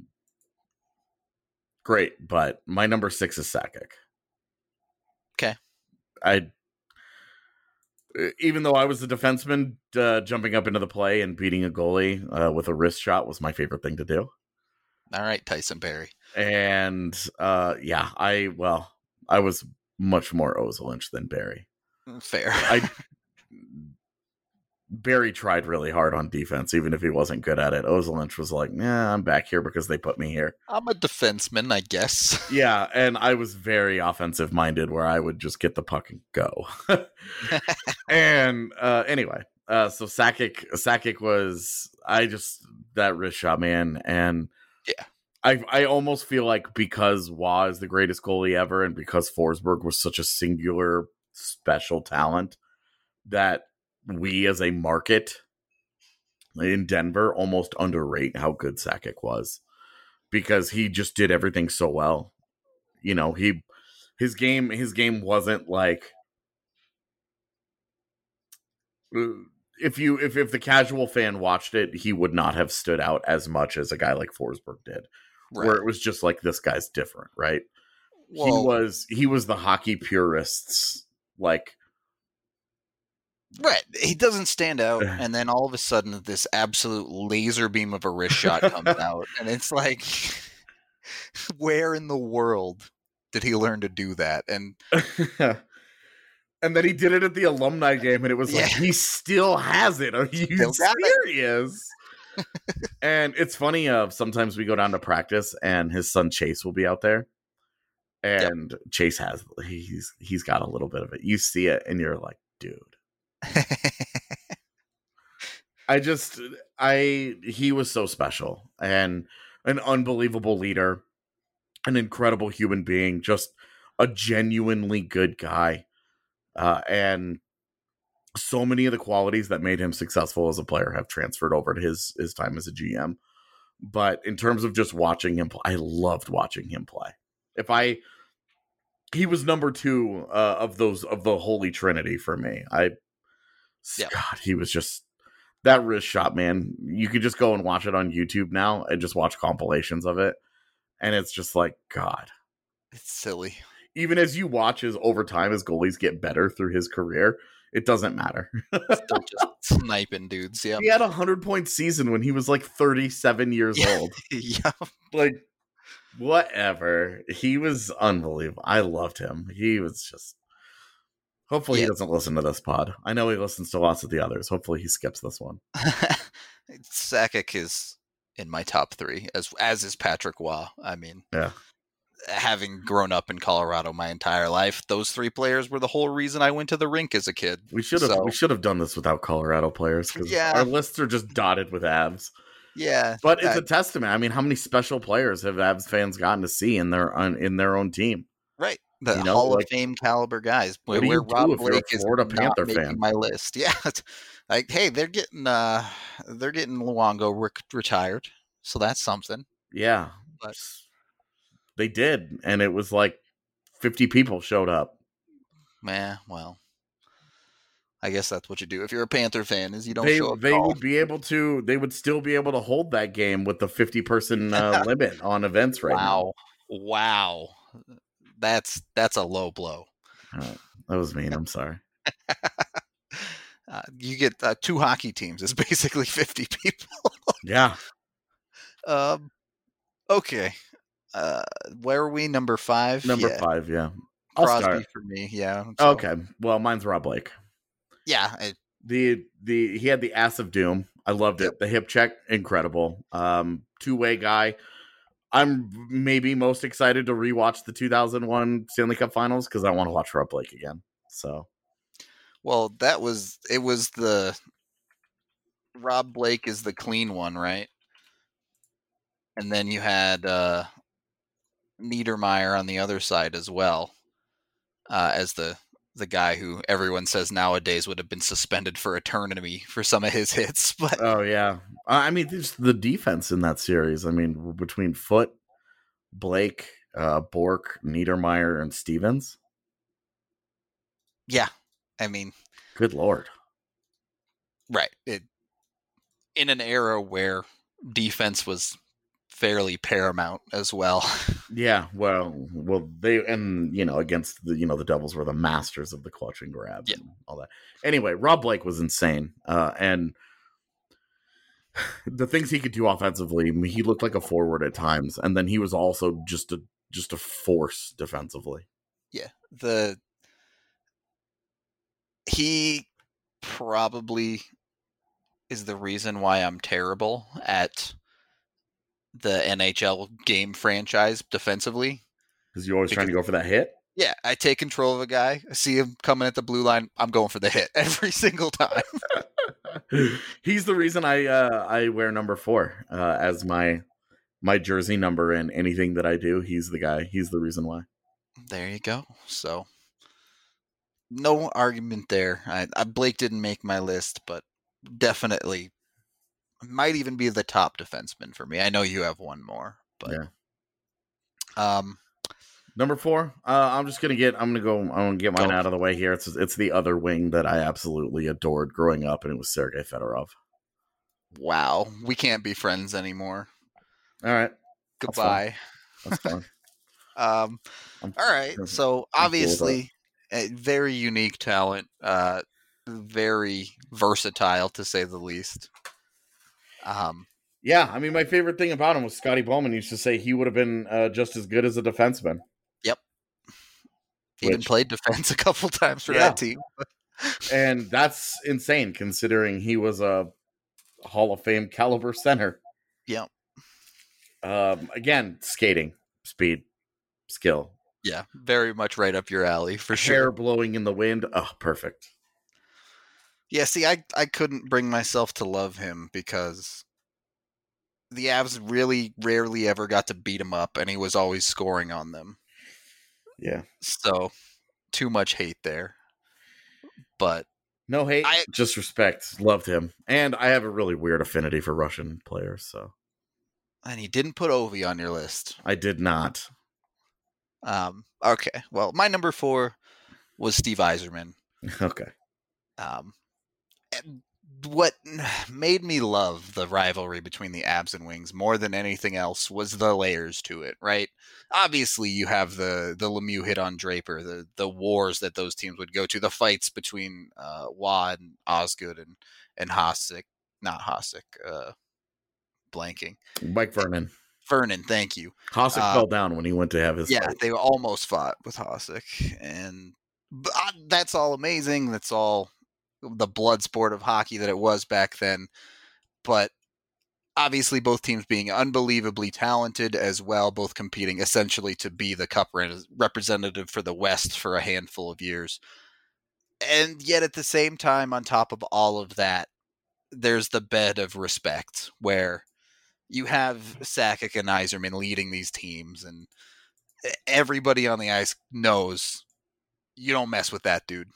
great, but my number six is Sakic. Okay. I, even though I was a defenseman, uh, jumping up into the play and beating a goalie uh, with a wrist shot was my favorite thing to do. All right, Tyson Barrie. And uh, yeah, I well, I was much more Ozil than Barrie. Fair. I Barrie tried really hard on defense, even if he wasn't good at it. Ozil was like, "Nah, I'm back here because they put me here. I'm a defenseman, I guess." Yeah, and I was very offensive minded, where I would just get the puck and go. and uh, anyway, uh, so Sakic, Sakic was I just that wrist shot, man, and yeah, I I almost feel like because Waugh is the greatest goalie ever, and because Forsberg was such a singular special talent, that we as a market in Denver almost underrate how good Sakic was, because he just did everything so well. You know, he his game his game wasn't like if you if if the casual fan watched it, he would not have stood out as much as a guy like Forsberg did. Right. Where it was just like, this guy's different, right? Well, he was he was the hockey purists, like. Right. He doesn't stand out, and then all of a sudden this absolute laser beam of a wrist shot comes out, and it's like, where in the world did he learn to do that? And and then he did it at the alumni game, and it was yeah. like, he still has it. Are you serious? And it's funny, uh, sometimes we go down to practice, and his son Chase will be out there, and yep. Chase has, he's he's got a little bit of it. You see it, and you're like, dude. I just, I, he was so special and an unbelievable leader, an incredible human being, just a genuinely good guy. Uh, and so many of the qualities that made him successful as a player have transferred over to his, his time as a G M. But in terms of just watching him play, I loved watching him play. If I, he was number two uh, of those, of the Holy Trinity for me. I, Yep. God, he was just that wrist shot, man. You could just go and watch it on YouTube now and just watch compilations of it. And it's just like, God, it's silly. Even as you watch his over time, as goalies get better through his career, it doesn't matter. Still just sniping dudes. Yeah. He had a hundred point season when he was like thirty-seven years yeah. old. yeah. Like, whatever. He was unbelievable. I loved him. He was just. Hopefully yeah. he doesn't listen to this pod. I know he listens to lots of the others. Hopefully he skips this one. Sakic is in my top three, as as is Patrick Waugh. I mean, yeah. having grown up in Colorado my entire life, those three players were the whole reason I went to the rink as a kid. We should have so, we should have done this without Colorado players, because yeah. our lists are just dotted with Avs. Yeah, but it's I, a testament. I mean, how many special players have Avs fans gotten to see in their in their own team? Right. The you know, Hall like, of Fame caliber guys. What where do you Rob do if Blake you're a Florida is Panther not fan? Making my list. Yeah. Like, hey, they're getting uh they're getting Luongo re- retired. So that's something. Yeah. But they did, and it was like fifty people showed up. Man, well. I guess that's what you do if you're a Panther fan, is you don't they, show up. They would be able to they would still be able to hold that game with the fifty person uh, limit on events right wow. now. Wow. That's that's a low blow. Right. That was mean. I'm sorry. uh, you get uh, two hockey teams. It's basically fifty people. Yeah. Um. Okay. Uh, where are we? Number five. Number yeah. five. Yeah. I'll Crosby start. for me. Yeah. So. Okay. Well, mine's Rob Blake. Yeah. It, the the he had the ass of doom. I loved it. Yep. The hip check, incredible. Um, two way guy. I'm maybe most excited to rewatch the two thousand one Stanley Cup Finals because I want to watch Rob Blake again. So, well, that was it. Was the Rob Blake is the clean one, right? And then you had uh, Niedermeyer on the other side as well, uh, as the the guy who everyone says nowadays would have been suspended for eternity for some of his hits. But oh yeah, I mean, just the defense in that series. I mean, between Foote, Blake, uh, Bork, Niedermeyer, and Stevens. Yeah, I mean, good Lord. Right. It, in an era where defense was fairly paramount as well. Yeah, well, well, they and you know against the you know the Devils were the masters of the clutch and grab, yeah. and all that. Anyway, Rob Blake was insane, uh, and the things he could do offensively, I mean, he looked like a forward at times, and then he was also just a just a force defensively. Yeah, the he probably is the reason why I'm terrible at the N H L game franchise defensively. Because you're always because, trying to go for that hit? Yeah, I take control of a guy. I see him coming at the blue line. I'm going for the hit every single time. He's the reason I uh, I wear number four uh, as my my jersey number in anything that I do. He's the guy. He's the reason why. There you go. So no argument there. I, I Blake didn't make my list, but definitely might even be the top defenseman for me. I know you have one more, but yeah. Um, number four. Uh, I'm just gonna get. I'm gonna go. I'm gonna get mine go. out of the way here. It's it's the other wing that I absolutely adored growing up, and it was Sergei Fedorov. Wow, we can't be friends anymore. All right, goodbye. That's fine. um, all right. So obviously, cool a very unique talent. Uh, very versatile to say the least. Um. Yeah, I mean, my favorite thing about him was Scotty Bowman used to say he would have been uh, just as good as a defenseman. Yep. Which, even played defense a couple times for yeah. that team. And that's insane considering he was a Hall of Fame caliber center. Yep. Um, again, skating, speed, skill. Yeah, very much right up your alley for Hair sure. Hair blowing in the wind. Oh, perfect. Yeah, see, I, I couldn't bring myself to love him because the Avs really rarely ever got to beat him up, and he was always scoring on them. Yeah. So, too much hate there. But no hate, I, just respect. Loved him. And I have a really weird affinity for Russian players, so. And you didn't put Ovi on your list. I did not. Um. Okay, well, my number four was Steve Yzerman. Okay. Um. And what made me love the rivalry between the Abs and Wings more than anything else was the layers to it, right? Obviously, you have the the Lemieux hit on Draper, the the wars that those teams would go to, the fights between uh, Waugh and Osgood and and Hasek, not Hasek, uh, blanking. Mike Vernon. Vernon, thank you. Hasek uh, fell down when he went to have his yeah, fight. They almost fought with Hasek, and but, uh, that's all amazing. That's all the blood sport of hockey that it was back then. But obviously both teams being unbelievably talented as well, both competing essentially to be the cup representative for the West for a handful of years. And yet at the same time, on top of all of that, there's the bed of respect where you have Sakic and Yzerman leading these teams, and everybody on the ice knows you don't mess with that dude.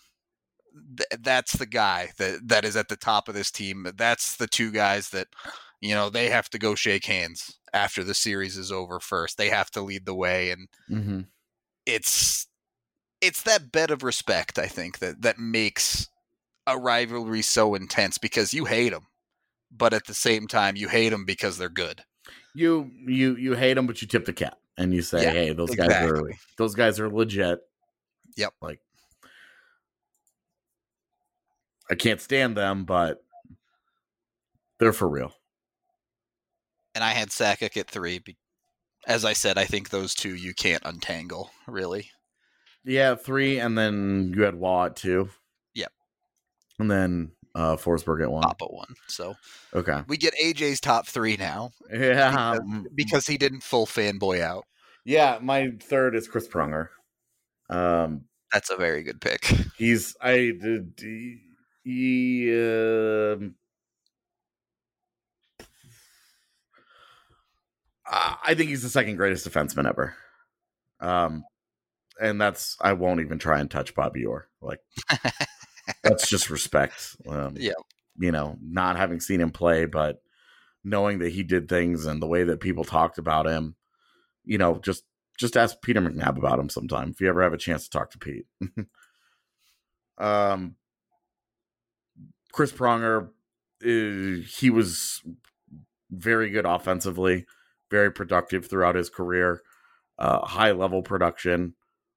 Th- that's the guy that, that is at the top of this team. That's the two guys that, you know, they have to go shake hands after the series is over first. They have to lead the way. And mm-hmm. it's, it's that bed of respect, I think, that, that makes a rivalry so intense because you hate them, but at the same time, you hate them because they're good. You, you, you hate them, but you tip the cap and you say, yeah, hey, those exactly. guys are, those guys are legit. Yep. Like, I can't stand them, but they're for real. And I had Sakic at three. As I said, I think those two you can't untangle, really. Yeah, three, and then you had Waugh at two. Yep. And then Uh, Forsberg at one. Papa one. So okay, we get A J's top three now. Yeah, because, because he didn't full fanboy out. Yeah, my third is Chris Pronger. Um, That's a very good pick. He's I did he, he um, I think he's the second greatest defenseman ever. Um, and that's I won't even try and touch Bobby Orr. Like that's just respect. Um, yeah, you know, not having seen him play, but knowing that he did things and the way that people talked about him. You know, just just ask Peter McNabb about him sometime if you ever have a chance to talk to Pete. um, Chris Pronger, uh, he was very good offensively, very productive throughout his career, uh, high level production,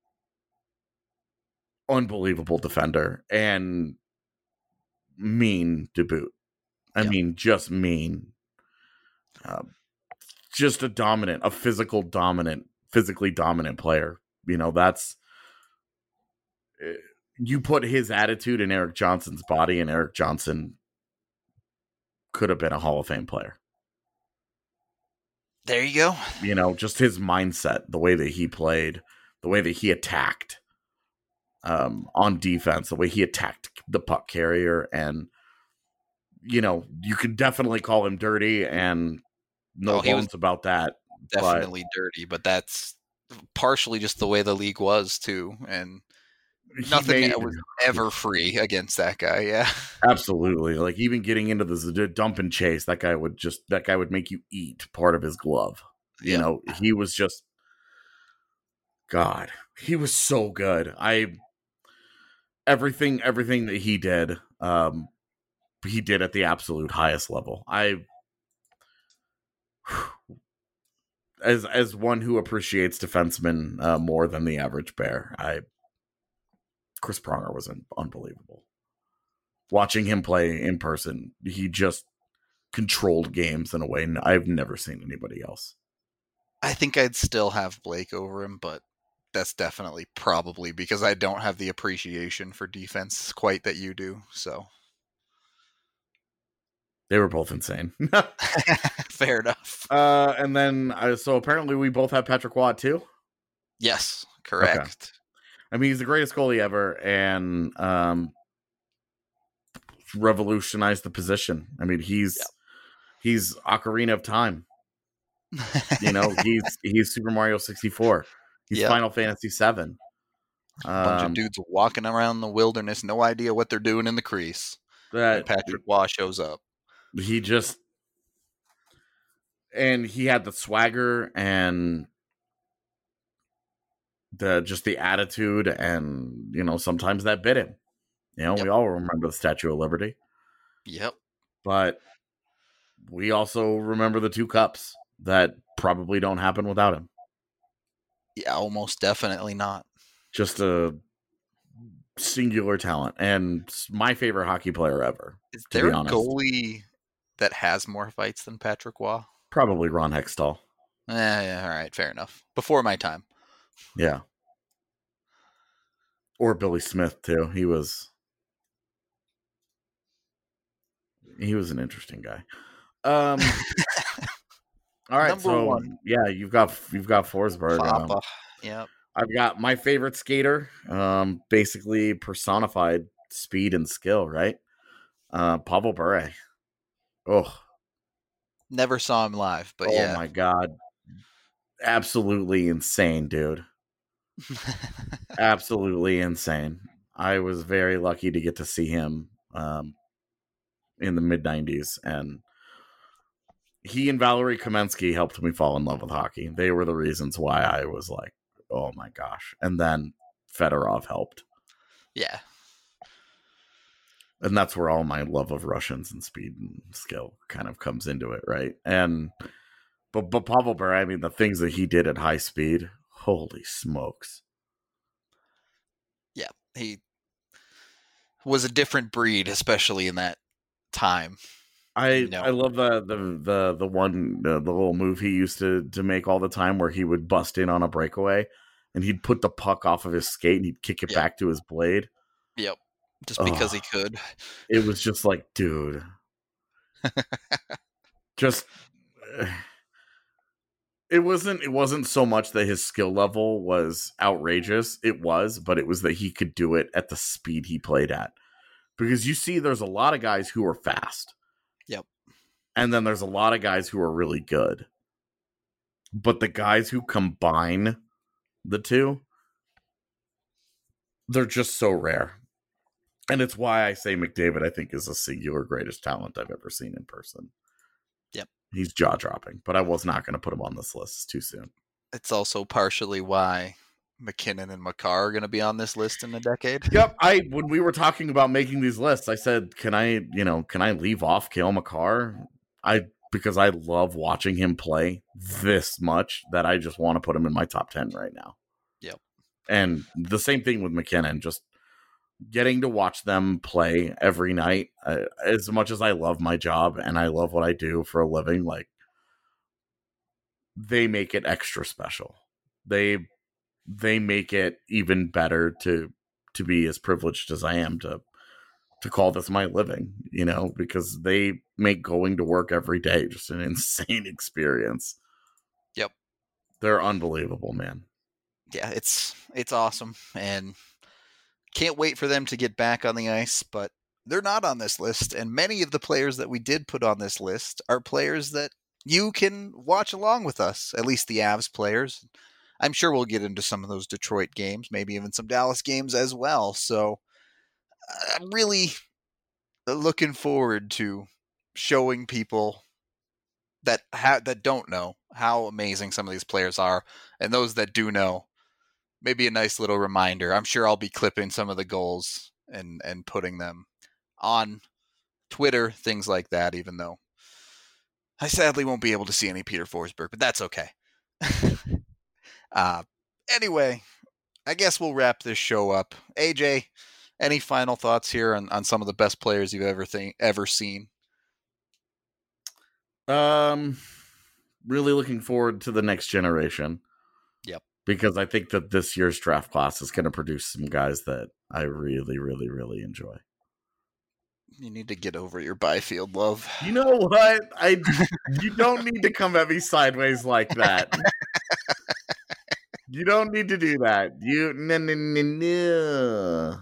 unbelievable defender, and mean to boot. I yeah. mean, just mean. Uh, just a dominant, a physical dominant, physically dominant player. You know, that's you put his attitude in Erik Johnson's body, and Erik Johnson could have been a Hall of Fame player. There you go. You know, just his mindset, the way that he played, the way that he attacked um, on defense, the way he attacked the puck carrier. And, you know, you could definitely call him dirty and no oh, bones about that. Definitely but dirty, but that's partially just the way the league was too. And nothing made, was ever free against that guy. Yeah, absolutely. Like even getting into the dump and chase, that guy would just that guy would make you eat part of his glove. You yeah. know, he was just God. He was so good. I everything everything that he did, um, he did at the absolute highest level. I as as one who appreciates defensemen uh, more than the average bear, I. Chris Pronger was unbelievable. Watching him play in person, he just controlled games in a way I've never seen anybody else. I think I'd still have Blake over him, but that's definitely probably because I don't have the appreciation for defense quite that you do. So they were both insane. Fair enough. Uh, and then, uh, so apparently we both have Patrick Watt too? Yes, correct. Okay. I mean, he's the greatest goalie ever, and um, revolutionized the position. I mean, he's yep. he's Ocarina of Time. You know, he's he's Super Mario sixty-four. He's yep. Final Fantasy seven. A bunch um, of dudes walking around the wilderness, no idea what they're doing in the crease. That and Patrick Waugh shows up. He just and he had the swagger and. The just the attitude, and you know sometimes that bit him. You know, yep. we all remember the Statue of Liberty. Yep. But we also remember the two cups that probably don't happen without him. Yeah, almost definitely not. Just a singular talent, and my favorite hockey player ever. Is there a goalie that has more fights than Patrick Waugh? Probably Ron Hextall. Eh, yeah, all right, fair enough. Before my time. Yeah. Or Billy Smith too. He was he was an interesting guy. Um all right, Number so one. yeah, you've got you've got Forsberg. Um, yeah. I've got my favorite skater, um, basically personified speed and skill, right? Uh Pavel Bure. Oh. Never saw him live, but oh yeah. Oh my god. Absolutely insane, dude. Absolutely insane. I was very lucky to get to see him um, in the mid nineties, and he and Valerie Kamensky helped me fall in love with hockey. They were the reasons why I was like, oh my gosh. And then Fedorov helped. Yeah. And that's where all my love of Russians and speed and skill kind of comes into it, right? And But but Pavel Bure, I mean, the things that he did at high speed, holy smokes. Yeah, he was a different breed, especially in that time. I you know? I love the the the the one the, the little move he used to to make all the time, where he would bust in on a breakaway and he'd put the puck off of his skate and he'd kick it yep. back to his blade. Yep. just because Ugh. he could. It was just like, dude. just it wasn't it wasn't so much that his skill level was outrageous. It was, but it was that he could do it at the speed he played at. Because you see there's a lot of guys who are fast. Yep. And then there's a lot of guys who are really good. But the guys who combine the two, they're just so rare. And it's why I say McDavid, I think, is the singular greatest talent I've ever seen in person. Yep. He's jaw-dropping, but I was not going to put him on this list. It's too soon. It's also partially why McKinnon and Makar are going to be on this list in a decade. Yep. I when we were talking about making these lists, I said, can I, you know, can I leave off Cale Makar? I because I love watching him play this much that I just want to put him in my top ten right now. Yep. And the same thing with McKinnon, just getting to watch them play every night. Uh, as much as I love my job and I love what I do for a living, like, they make it extra special. They they make it even better to to be as privileged as I am to to call this my living, you know, because they make going to work every day just an insane experience. Yep. They're unbelievable, man. Yeah, it's it's awesome, and can't wait for them to get back on the ice, but they're not on this list, and many of the players that we did put on this list are players that you can watch along with us, at least the Avs players. I'm sure we'll get into some of those Detroit games, maybe even some Dallas games as well, so I'm really looking forward to showing people that ha- that don't know how amazing some of these players are, and those that do know, maybe a nice little reminder. I'm sure I'll be clipping some of the goals and, and putting them on Twitter, things like that, even though I sadly won't be able to see any Peter Forsberg, but that's okay. uh, anyway, I guess we'll wrap this show up. A J, any final thoughts here on, on some of the best players you've ever think, ever seen? Um, really looking forward to the next generation. Yep. Because I think that this year's draft class is going to produce some guys that I really, really, really enjoy. You need to get over your Byfield love. You know what? I you don't need to come at me sideways like that. You don't need to do that. You no no no no.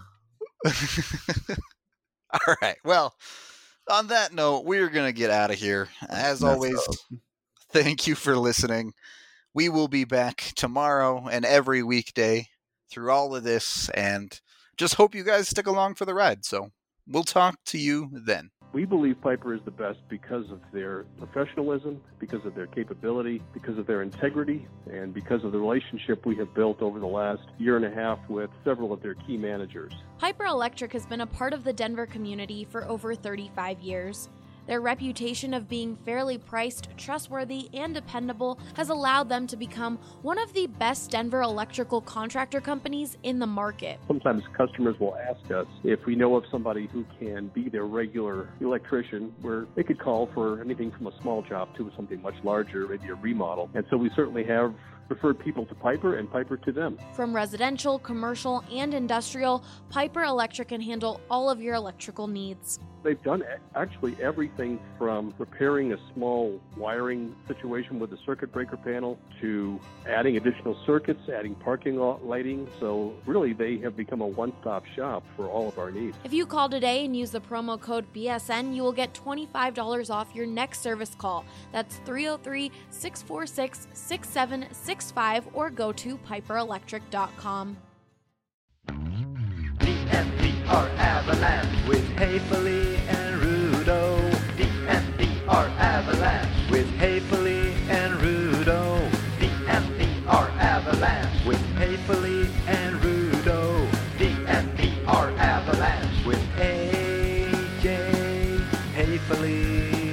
All right. Well, on that note, we're going to get out of here. As That's always, up. Thank you for listening. We will be back tomorrow and every weekday through all of this, and just hope you guys stick along for the ride. So we'll talk to you then. We believe Piper is the best because of their professionalism, because of their capability, because of their integrity, and because of the relationship we have built over the last year and a half with several of their key managers. Piper Electric has been a part of the Denver community for over thirty-five years. Their reputation of being fairly priced, trustworthy, and dependable has allowed them to become one of the best Denver electrical contractor companies in the market. Sometimes customers will ask us if we know of somebody who can be their regular electrician, where they could call for anything from a small job to something much larger, maybe a remodel. And so we certainly have referred people to Piper and Piper to them. From residential, commercial, and industrial, Piper Electric can handle all of your electrical needs. They've done actually everything from repairing a small wiring situation with a circuit breaker panel to adding additional circuits, adding parking lot lighting. So really, they have become a one-stop shop for all of our needs. If you call today and use the promo code B S N, you will get twenty-five dollars off your next service call. That's three oh three, six four six, six seven six five or go to piper electric dot com. D N V R Avalanche with Haefele and Rudo. D N V R Avalanche with Haefele and Rudo. D N V R Avalanche with Haefele and Rudo. D N V R Avalanche with A J Haefele.